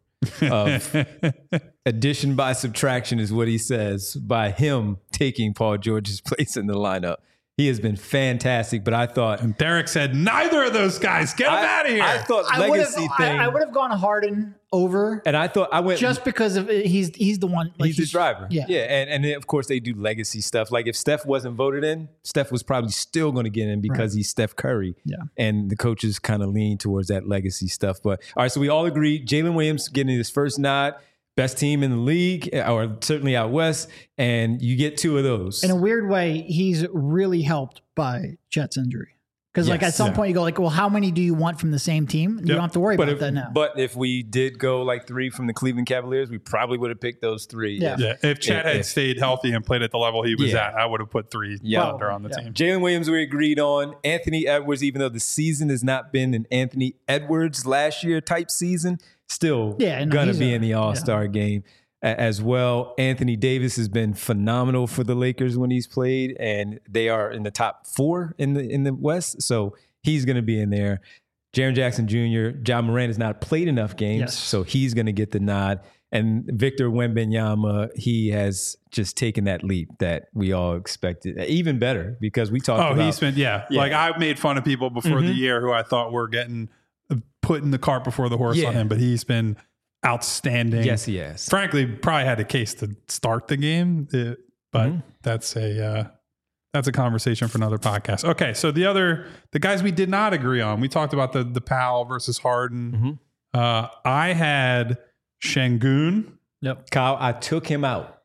of addition by subtraction is what he says by him taking Paul George's place in the lineup. He has been fantastic, but I thought... And Derek said, neither of those guys, get him out of here. I thought legacy thing... I would have gone Harden over. And I thought I went... Just because of he's the one... Like he's the driver. Yeah. And then, of course, they do legacy stuff. Like if Steph wasn't voted in, Steph was probably still going to get in because he's Steph Curry. Yeah. And the coaches kind of lean towards that legacy stuff. But all right, so we all agree Jalen Williams getting his first nod. Best team in the league, or certainly out west, and you get 2 of those. In a weird way, he's really helped by Chet's injury. Because like at some point you go like, well, how many do you want from the same team? You don't have to worry about that now. But if we did go like 3 from the Cleveland Cavaliers, we probably would have picked those 3. Yeah. If Chet had stayed healthy and played at the level he was at, I would have put 3 under on the team. Jalen Williams we agreed on. Anthony Edwards, even though the season has not been an Anthony Edwards last year type season, still gonna be in the All-Star game as well. Anthony Davis has been phenomenal for the Lakers when he's played, and they are in the top 4 in the West, so he's gonna be in there. Jaren Jackson Jr., John Moran has not played enough games, so he's gonna get the nod. And Victor Wembanyama, he has just taken that leap that we all expected, even better because we talked about... he's been, like I made fun of people before the year who I thought were putting the cart before the horse on him, but he's been outstanding. Yes, he has. Frankly, probably had a case to start the game, but that's a conversation for another podcast. Okay, so the guys we did not agree on, we talked about the Powell versus Harden. I had Şengün. Kyle, I took him out.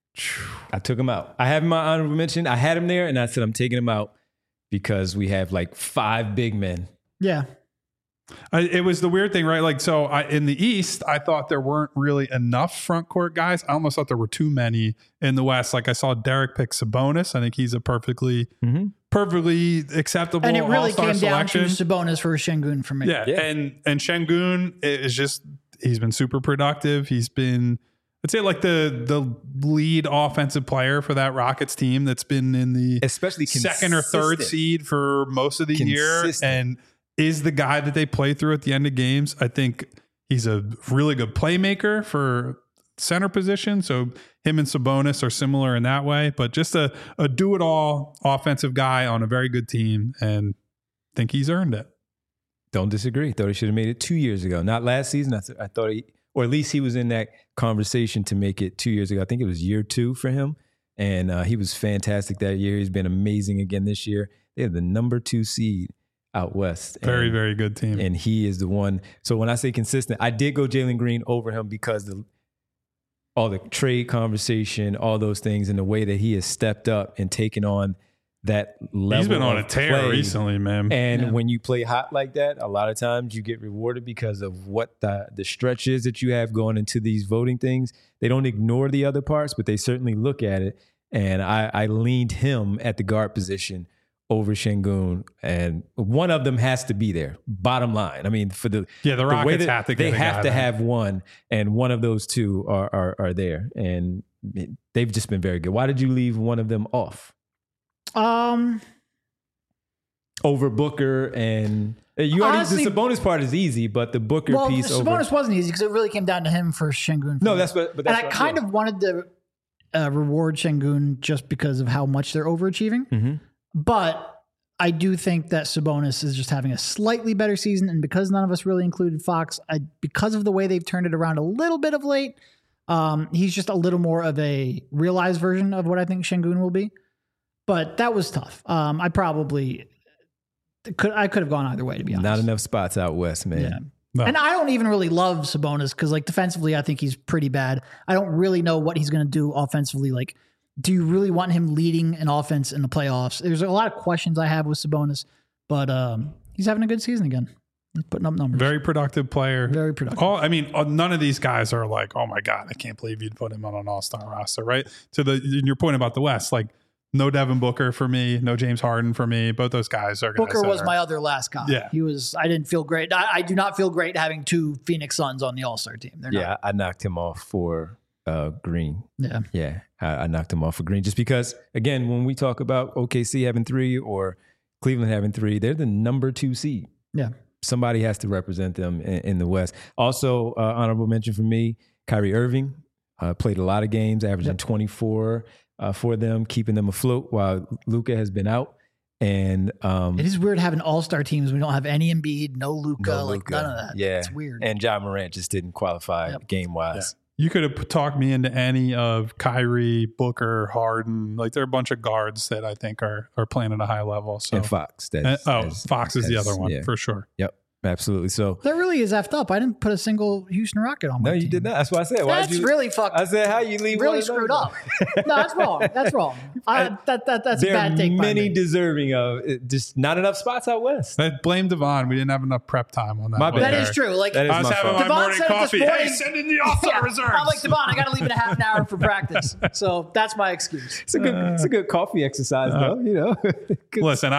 I have him my honorable mention. I had him there, and I said I'm taking him out because we have like 5 big men. Yeah. It was the weird thing, right? Like, so in the East, I thought there weren't really enough front court guys. I almost thought there were too many in the West. Like I saw Derek pick Sabonis. I think he's a perfectly acceptable and it really all-star came selection. Down to Sabonis for Şengün for me. Yeah. And Şengün is just, he's been super productive. He's been, I'd say like the lead offensive player for that Rockets team that's been in the especially second or third seed for most of the year, and is the guy that they play through at the end of games. I think he's a really good playmaker for center position. So him and Sabonis are similar in that way, but just a do-it-all offensive guy on a very good team, and I think he's earned it. Don't disagree. Thought he should have made it 2 years ago. Not last season. I thought or at least he was in that conversation to make it 2 years ago. I think it was year 2 for him. And he was fantastic that year. He's been amazing again this year. They have the number 2 seed out west. Very, very good team. And he is the one. So when I say consistent, I did go Jalen Green over him because all the trade conversation, all those things, and the way that he has stepped up and taken on that level. He's been on a tear play. Recently, man. And when you play hot like that, a lot of times you get rewarded because of what the stretch is that you have going into these voting things. They don't ignore the other parts, but they certainly look at it. And I leaned him at the guard position over Şengün, and one of them has to be there. Bottom line, I mean, for the Rockets have to get they have to have one, and one of those 2 are there, and they've just been very good. Why did you leave one of them off? Over Booker, and you honestly, the Sabonis part is easy, but the Booker piece over Sabonis wasn't easy because it really came down to him for Şengün. No, that's what. And I kind of wanted to reward Şengün just because of how much they're overachieving. But I do think that Sabonis is just having a slightly better season, and because none of us really included Fox, because of the way they've turned it around a little bit of late, he's just a little more of a realized version of what I think Şengün will be. But that was tough. I could have gone either way, to be honest. Not enough spots out west, man. Yeah. No. And I don't even really love Sabonis because, like, defensively, I think he's pretty bad. I don't really know what he's going to do offensively, like do you really want him leading an offense in the playoffs? There's a lot of questions I have with Sabonis, but he's having a good season again. He's putting up numbers. Very productive player. Very productive. Oh, I mean, none of these guys are like, oh my God, I can't believe you'd put him on an all-star roster, right? To your point about the West, like no Devin Booker for me, no James Harden for me. Both those guys are guys Booker was my other last guy. Yeah. I didn't feel great. I do not feel great having two Phoenix Suns on the All-Star team. They're not. I knocked him off for Green. Yeah. Yeah, I knocked him off for Green just because, again, when we talk about OKC having 3 or Cleveland having 3, they're the number 2 seed. Yeah. Somebody has to represent them in the West. Also, honorable mention for me, Kyrie Irving played a lot of games, averaging 24 for them, keeping them afloat while Luka has been out. And it is weird having all-star teams. We don't have any Embiid, no Luka, like none of that. Yeah, it's weird. And Ja Morant just didn't qualify game-wise. Yeah. You could have talked me into any of Kyrie, Booker, Harden. Like there are a bunch of guards that I think are playing at a high level. So and Fox. Fox is the other one for sure. Yep, absolutely. So that really is effed up. I didn't put a single Houston Rocket on my team. No, you did not. That's why I said. That's really fucked. I said, how you leave? Really screwed up. No, that's wrong. That's wrong. That's a bad take. There are many deserving of it, just not enough spots out west. Blame Devon. We didn't have enough prep time on that. My bad. That is true. Like that is I was having my morning coffee. Hey, send in the all-star reserves. I'm like, Devon, I got to leave in a half an hour for practice. So that's my excuse. It's a good coffee exercise, though. You know. Listen,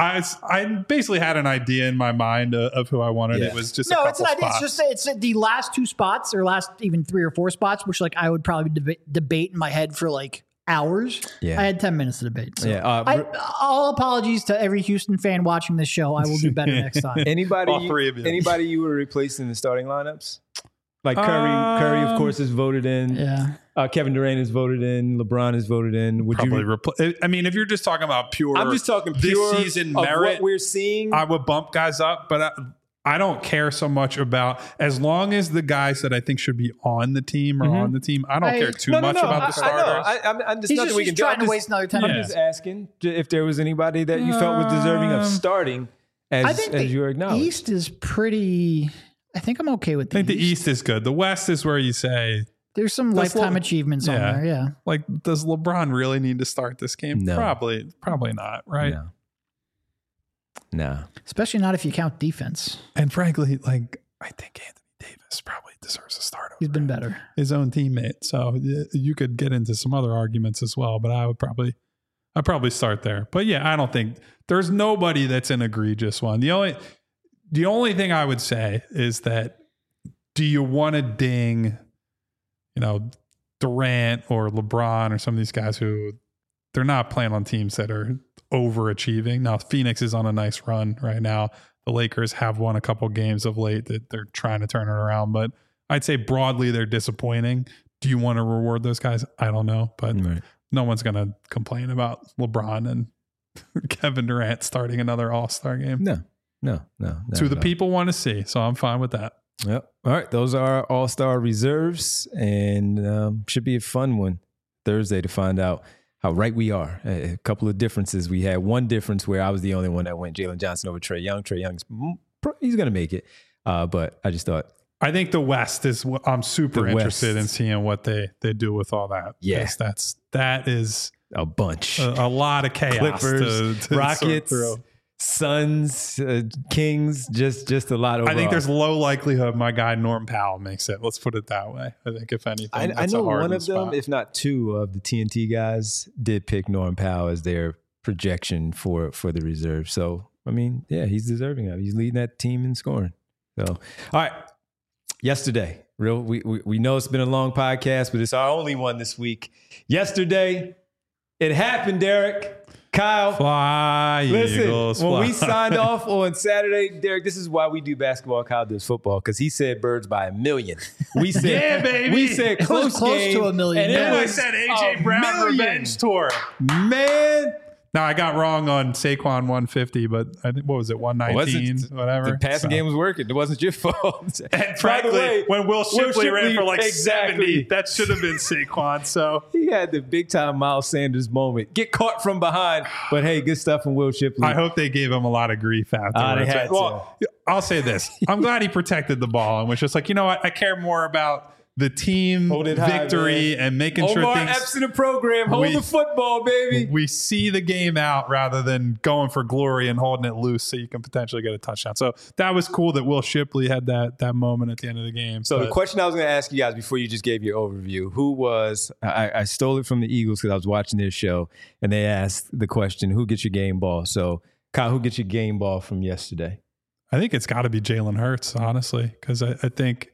I basically had an idea in my mind of who I wanted. Yeah. It was just it's an idea. It's the last 2 spots or last even 3 or 4 spots, which like I would probably debate in my head for like hours. Yeah. I had 10 minutes to debate. So yeah. All apologies to every Houston fan watching this show. I will do better next time. Anybody you would replace in the starting lineups? Like Curry, of course, is voted in. Yeah. Kevin Durant is voted in. LeBron is voted in. Would probably you? I mean, if you're just talking about pure, I'm just talking pure this season of merit. What we're seeing, I would bump guys up, but I don't care so much about as long as the guys that I think should be on the team are on the team. I don't care too much about the starters. I'm just nothing we can do. Trying to waste another time. I'm just asking if there was anybody that you felt was deserving of starting. As you acknowledged, the East is pretty. I think I'm okay with the East. I think the East is good. The West is where you say there's some lifetime achievements on there. Yeah. Like, does LeBron really need to start this game? No. Probably not. Right. No. Especially not if you count defense. And frankly, like, I think Anthony Davis probably deserves a start. He's been better. His own teammate. So you could get into some other arguments as well, but I'd probably start there. But yeah, I don't think there's nobody that's an egregious one. The only thing I would say is that do you want to ding, Durant or LeBron or some of these guys who they're not playing on teams that are overachieving. Now, Phoenix is on a nice run right now. The Lakers have won a couple games of late that they're trying to turn it around, but I'd say broadly they're disappointing. Do you want to reward those guys? I don't know, but no one's going to complain about LeBron and Kevin Durant starting another All-Star game. No. It's who the people want to see, so I'm fine with that. Yep. All right, those are our All-Star reserves, and should be a fun one Thursday to find out how right we are. A couple of differences. We had one difference where I was the only one that went Jalen Johnson over Trae Young. Trae Young's he's going to make it, but I just thought. I think the West is what I'm super interested in seeing what they do with all that. Yeah, that is a bunch, a lot of chaos. Clippers, to Rockets, Suns, Kings, just a lot. Overall. I think there's low likelihood my guy Norm Powell makes it. Let's put it that way. I think if anything, I know one of them, if not two of the TNT guys, did pick Norm Powell as their projection for the reserve. So I mean, yeah, he's deserving of it. He's leading that team in scoring. So all right, yesterday, we know it's been a long podcast, but it's our only one this week. Yesterday, it happened, Derek. Kyle, fly, listen, Eagles, when fly. we signed off on Saturday, Derek, this is why we do basketball. Kyle does football, because he said birds by 1 million. We said, yeah, baby. We said close to $1 million. And I said AJ Brown revenge tour. Man. Now, I got wrong on Saquon 150, but I think, what was it, 119, whatever. The passing game was working. It wasn't your fault. And frankly, when Will Shipley ran for like 70, that should have been Saquon. So he had the big-time Miles Sanders moment. Get caught from behind, but hey, good stuff from Will Shipley. I hope they gave him a lot of grief afterwards. They had I'll say this. I'm glad he protected the ball and was just like, you know what? I care more about the team victory and making sure Omar things. Epps in the program. Hold the football, baby. We see the game out rather than going for glory and holding it loose so you can potentially get a touchdown. So that was cool that Will Shipley had that moment at the end of the game. So the question I was going to ask you guys before you just gave your overview, who was, I stole it from the Eagles because I was watching their show, and they asked the question, who gets your game ball? So Kyle, who gets your game ball from yesterday? I think it's got to be Jalen Hurts, honestly, because I think,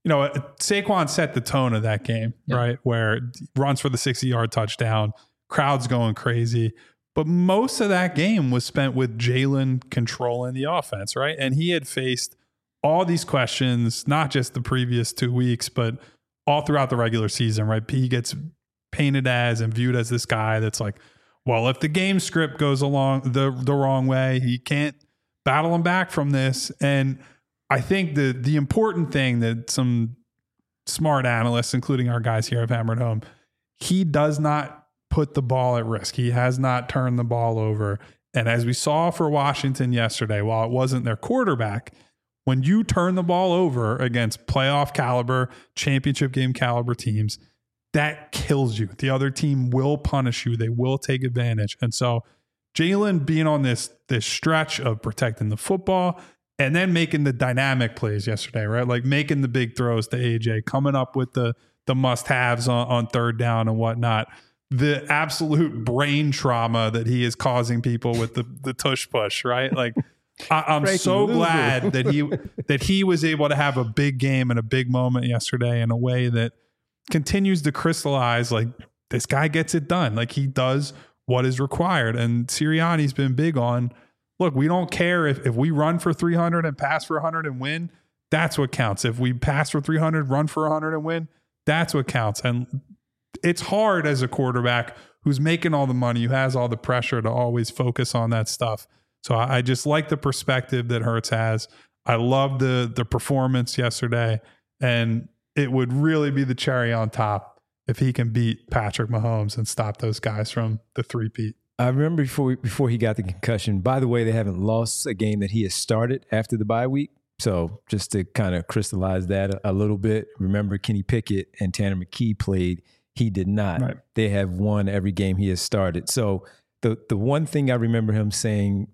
Saquon set the tone of that game, right? Where runs for the 60-yard touchdown, crowd's going crazy. But most of that game was spent with Jalen controlling the offense, right? And he had faced all these questions, not just the previous 2 weeks, but all throughout the regular season, right? He gets painted as and viewed as this guy that's like, well, if the game script goes along the wrong way, he can't battle him back from this. And I think the important thing that some smart analysts, including our guys here, have hammered home, he does not put the ball at risk. He has not turned the ball over. And as we saw for Washington yesterday, while it wasn't their quarterback, when you turn the ball over against playoff caliber, championship game caliber teams, that kills you. The other team will punish you. They will take advantage. And so Jalen being on this stretch of protecting the football and then making the dynamic plays yesterday, right? Like making the big throws to AJ, coming up with the must-haves on third down and whatnot. The absolute brain trauma that he is causing people with the tush push, right? Like I'm so glad that he was able to have a big game and a big moment yesterday in a way that continues to crystallize like this guy gets it done. Like he does what is required. And Sirianni's been big on, look, we don't care if we run for 300 and pass for 100 and win. That's what counts. If we pass for 300, run for 100 and win, that's what counts. And it's hard as a quarterback who's making all the money, who has all the pressure to always focus on that stuff. So I just like the perspective that Hurts has. I love the performance yesterday, and it would really be the cherry on top if he can beat Patrick Mahomes and stop those guys from the three-peat. I remember before he got the concussion. By the way, they haven't lost a game that he has started after the bye week. So just to kind of crystallize that a little bit, remember Kenny Pickett and Tanner McKee played. He did not. Right. They have won every game he has started. So the one thing I remember him saying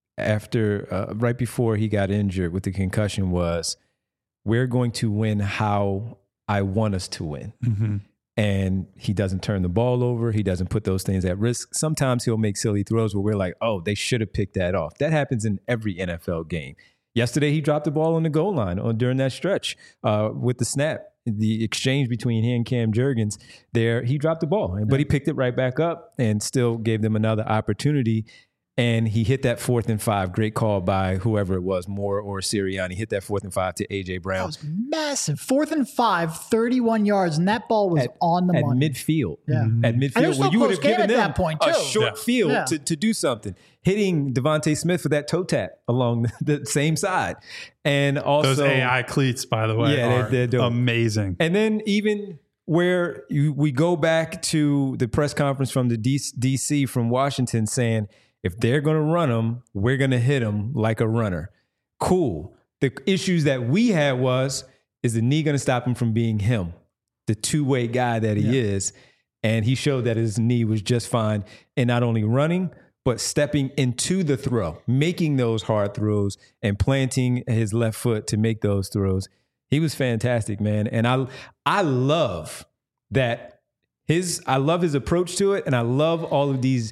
after right before he got injured with the concussion was, we're going to win how I want us to win. Mm-hmm. And he doesn't turn the ball over. He doesn't put those things at risk. Sometimes he'll make silly throws where we're like, oh, they should have picked that off. That happens in every NFL game. Yesterday, he dropped the ball on the goal line during that stretch with the snap. The exchange between he and Cam Jurgens there, he dropped the ball, but he picked it right back up and still gave them another opportunity. And he hit that 4th and 5. Great call by whoever it was, Moore or Sirianni. Hit that 4th and 5 to A.J. Brown. That was massive. 4th and 5, 31 yards, and that ball was on the money. At midfield. Yeah. At midfield, where you would have given them that point too. A short field to do something. Hitting Devontae Smith for that toe tap along the same side. And also... Those AI cleats, by the way, are amazing. And then even... where we go back to the press conference from the DC from Washington saying, if they're going to run them, we're going to hit them like a runner. Cool. The issues that we had is the knee going to stop him from being him, the two-way guy that he is? And he showed that his knee was just fine in not only running, but stepping into the throw, making those hard throws and planting his left foot to make those throws. He was fantastic, man. And I love that I love his approach to it. And I love all of these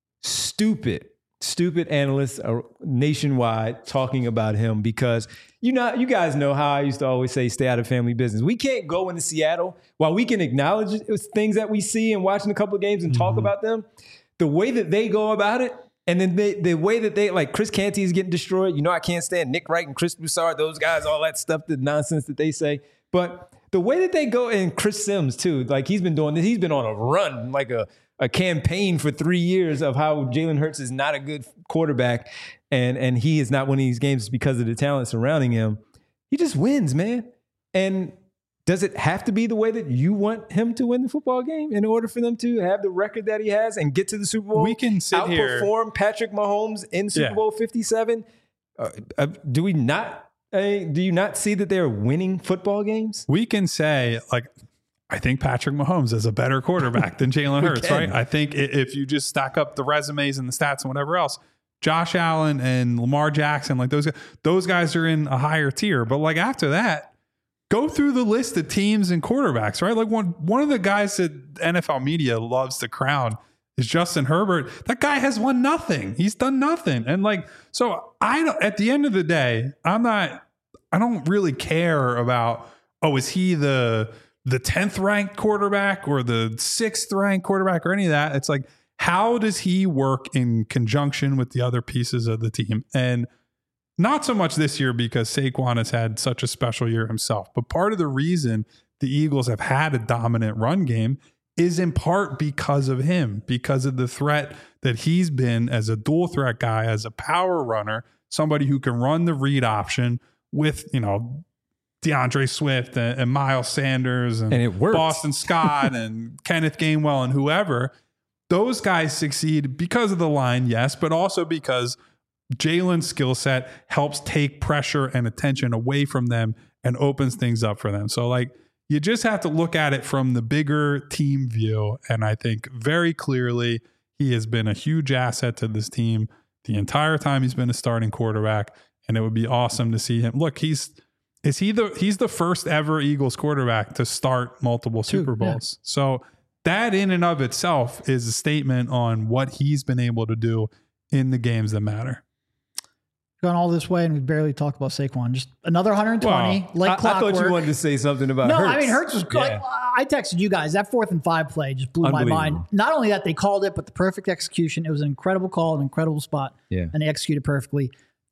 stupid analysts nationwide talking about him because, you guys know how I used to always say, stay out of family business. We can't go into Seattle while we can acknowledge things that we see and watching a couple of games and talk about them. The way that they go about it, and then the way that they, like Chris Canty is getting destroyed. I can't stand Nick Wright and Chris Broussard, those guys, all that stuff, the nonsense that they say. But the way that they go, and Chris Sims too, like he's been doing this. He's been on a run, like a campaign for 3 years of how Jalen Hurts is not a good quarterback and he is not winning these games because of the talent surrounding him. He just wins, man. And does it have to be the way that you want him to win the football game in order for them to have the record that he has and get to the Super Bowl? We can sit here, outperform Patrick Mahomes in Super Bowl 57. Do we not Do you not see that they're winning football games? We can say, like, I think Patrick Mahomes is a better quarterback than Jalen Hurts, right? I think if you just stack up the resumes and the stats and whatever else, Josh Allen and Lamar Jackson, like those guys are in a higher tier. But like after that, go through the list of teams and quarterbacks, right? Like one of the guys that NFL media loves to crown is Justin Herbert. That guy has won nothing. He's done nothing. And like, so at the end of the day, I don't really care about, is he the 10th ranked quarterback or the 6th ranked quarterback or any of that. It's like, how does he work in conjunction with the other pieces of the team? And not so much this year because Saquon has had such a special year himself, but part of the reason the Eagles have had a dominant run game is in part because of him, because of the threat that he's been as a dual threat guy, as a power runner, somebody who can run the read option with, DeAndre Swift and Miles Sanders and it works. Boston Scott and Kenneth Gainwell and whoever. Those guys succeed because of the line, yes, but also because Jalen's skill set helps take pressure and attention away from them and opens things up for them. So like, you just have to look at it from the bigger team view. And I think very clearly he has been a huge asset to this team the entire time he's been a starting quarterback. And it would be awesome to see him. Look, he's the first ever Eagles quarterback to start multiple Super Bowls. Yeah. So that in and of itself is a statement on what he's been able to do in the games that matter. Gone all this way and we barely talked about Saquon. Just another 120, I thought you wanted to say something about Hurts. No, I mean, Hurts was good. Yeah. I texted you guys. That 4th and 5 play just blew my mind. Not only that they called it, but the perfect execution. It was an incredible call, an incredible spot. Yeah. And they executed perfectly.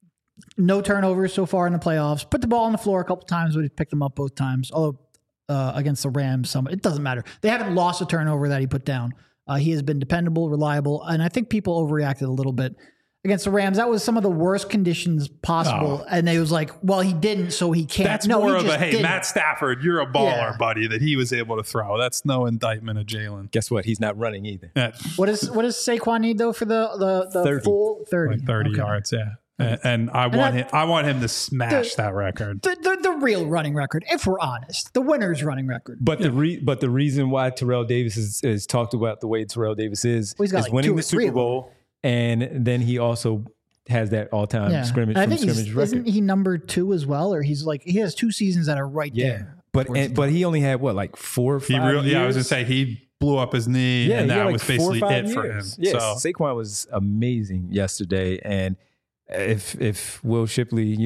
No turnovers so far in the playoffs. Put the ball on the floor a couple times, but he picked them up both times. Although against the Rams, it doesn't matter. They haven't lost a turnover that he put down. He has been dependable, reliable, and I think people overreacted a little bit against the Rams. That was some of the worst conditions possible, and they was like, "Well, he didn't, so he can't." That's more of a hey, Matt Stafford, you're a baller, buddy, that he was able to throw. That's no indictment of Jalen. Guess what? He's not running either. Yeah. What does Saquon need though for the 30. Full 30, like 30 yards? Yeah. And I want him to smash that record. The real running record, if we're honest, the winner's running record. But the reason why Terrell Davis is talked about the way Terrell Davis is winning the Super Bowl, and then he also has that all-time scrimmage. I think record. Isn't he number 2 as well, or he has 2 seasons that are right there. But he only had like 4 or 5 years. Yeah, I was gonna say he blew up his knee, and that was basically it for him. Yes, so. Saquon was amazing yesterday, and if Will Shipley,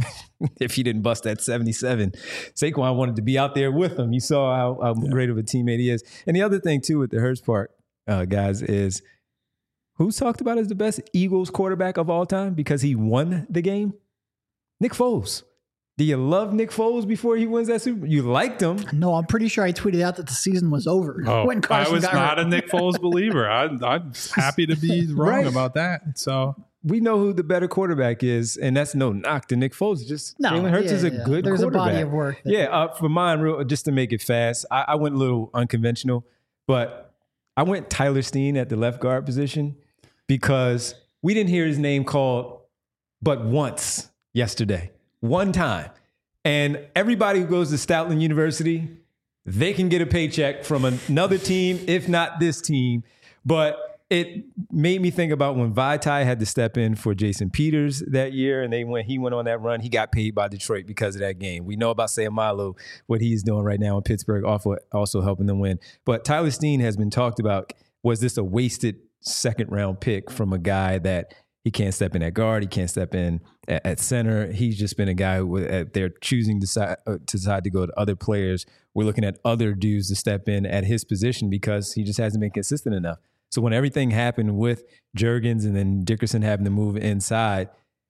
if he didn't bust that 77, Saquon wanted to be out there with him. You saw how great of a teammate he is. And the other thing too with the Hurts part, guys, is who's talked about as the best Eagles quarterback of all time because he won the game? Nick Foles. Do you love Nick Foles before he wins that Super Bowl? You liked him. No, I'm pretty sure I tweeted out that the season was over. When Carson I was not a Nick Foles believer. I'm happy to be wrong about that. So we know who the better quarterback is, and that's no knock to Nick Foles. Jalen Hurts is a good There's quarterback. A body of work. For mine, just to make it fast, I went a little unconventional, but I went Tyler Steen at the left guard position because we didn't hear his name called but once yesterday. One time. And everybody who goes to Stoutland University, they can get a paycheck from another team, if not this team. But it made me think about when Vaitai had to step in for Jason Peters that year, and he went on that run. He got paid by Detroit because of that game. We know about Sayamalo, what he's doing right now in Pittsburgh, also helping them win. But Tyler Steen has been talked about. Was this a wasted second-round pick from a guy that he can't step in at guard, he can't step in at center? He's just been a guy who they're choosing to decide to go to other players. We're looking at other dudes to step in at his position because he just hasn't been consistent enough. So when everything happened with Juergens and then Dickerson having to move inside,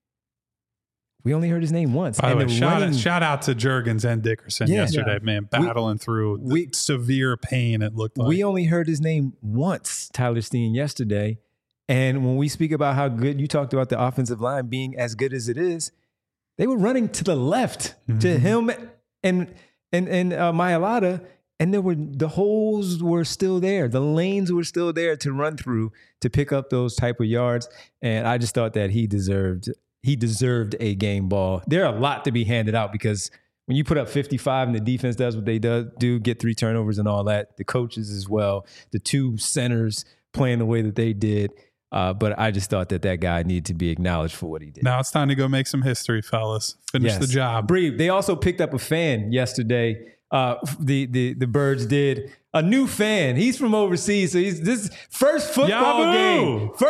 we only heard his name once. By the way, shout out to Juergens and Dickerson yesterday, man, battling through severe pain, it looked like. We only heard his name once, Tyler Steen, yesterday. And when we speak about how good, you talked about the offensive line being as good as it is, they were running to the left to him and Mailata. And the holes were still there. The lanes were still there to run through to pick up those type of yards. And I just thought that he deserved he deserved a game ball. There are a lot to be handed out because when you put up 55 and the defense does what they do, get 3 turnovers and all that, the coaches as well, the 2 centers playing the way that they did. But I just thought that guy needed to be acknowledged for what he did. Now it's time to go make some history, fellas. Finish the job. Bree, they also picked up a fan yesterday. The Birds did. A new fan. He's from overseas. So this first football game for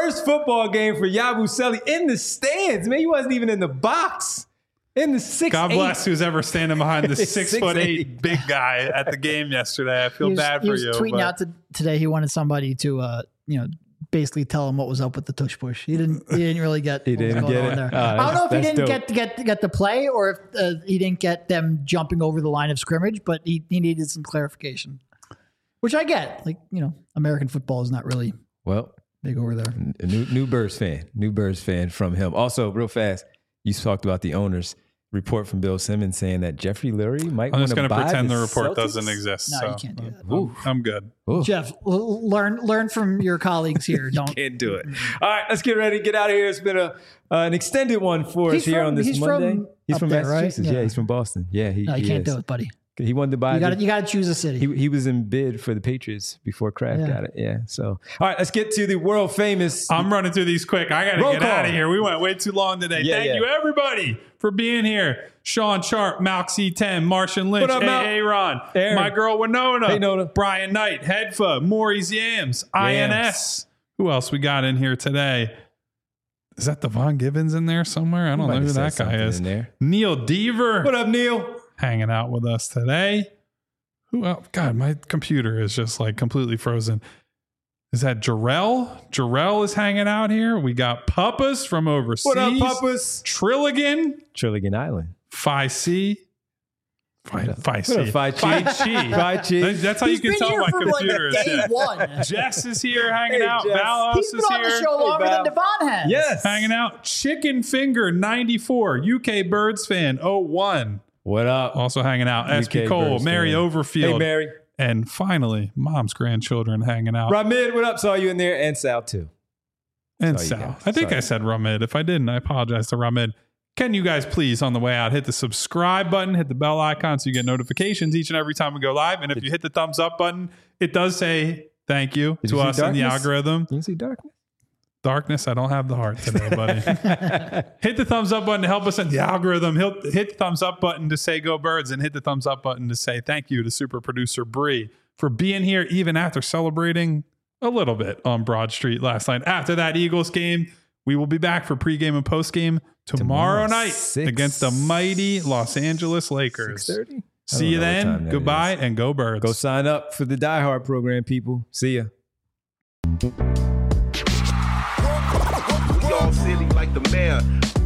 Yabusele in the stands. Man, he wasn't even in the box. In the 6'8". God bless who's ever standing behind the 6'8" big guy at the game yesterday. I feel bad for you. He was tweeting out today he wanted somebody to basically tell him what was up with the tush push. He didn't really get he didn't get it. There. I don't know if he didn't get the play or if he didn't get them jumping over the line of scrimmage, but he needed some clarification, which I get. American football is not really big over there. A new Birds fan from him. Also, real fast, you talked about the owners. Report from Bill Simmons saying that Jeffrey Lurie might want to buy the Celtics. I'm just going to pretend the report doesn't exist. No, you can't do that. I'm good. Ooh. Jeff, learn from your colleagues here. Don't can't do it. All right, let's get ready to get out of here. It's been an extended one for us here on this Monday. He's from Massachusetts. Right? Yeah, he's from Boston. Yeah, you can't do it, buddy. He wanted to buy. You got to choose a city. He was in bid for the Patriots before Kraft got it. Yeah. So, all right, let's get to the world famous. I'm running through these quick. I got to get out of here. We went way too long today. Thank you, everybody, for being here. Sean Sharp, Malk C10, Martian Lynch, Aaron, my girl Winona, hey, Nona. Brian Knight, Hedfa, Maurice Yams, INS. Who else we got in here today? Is that Devon Gibbons in there somewhere? I don't know who that guy is. Neil Deaver. What up, Neil? Hanging out with us today. Who else? God, my computer is just completely frozen. Is that Jarrell? Jarrell is hanging out here. We got Puppas from overseas. What up, Puppas? Trilligan Island. Phi C. Phi C. Phi Chi. That's how you can tell my computer is day one. Jess is here hanging out. Valos is here. He's been on the show longer than Devon has. Yes. Hanging out. Chicken Finger 94. UK Birds fan 01. What up? Also hanging out. SP Cole, Mary Overfield. Hey, Mary. And finally, Mom's grandchildren hanging out. Ramid, what up? Saw you in there. And Sal, too. And Sal. I think I said Ramid. If I didn't, I apologize to Ramid. Can you guys please, on the way out, hit the subscribe button, hit the bell icon so you get notifications each and every time we go live. And if you hit the thumbs up button, it does say thank you to us in the algorithm. You see darkness? Darkness, I don't have the heart today, buddy. Hit the thumbs up button to help us in the algorithm. Hit the thumbs up button to say go Birds, and hit the thumbs up button to say thank you to super producer Bree for being here even after celebrating a little bit on Broad Street last night. After that Eagles game, we will be back for pregame and postgame tomorrow night against the mighty Los Angeles Lakers. 6:30? See you then. Goodbye and go Birds. Go sign up for the Die Hard program, people. See ya. We all silly like the mayor.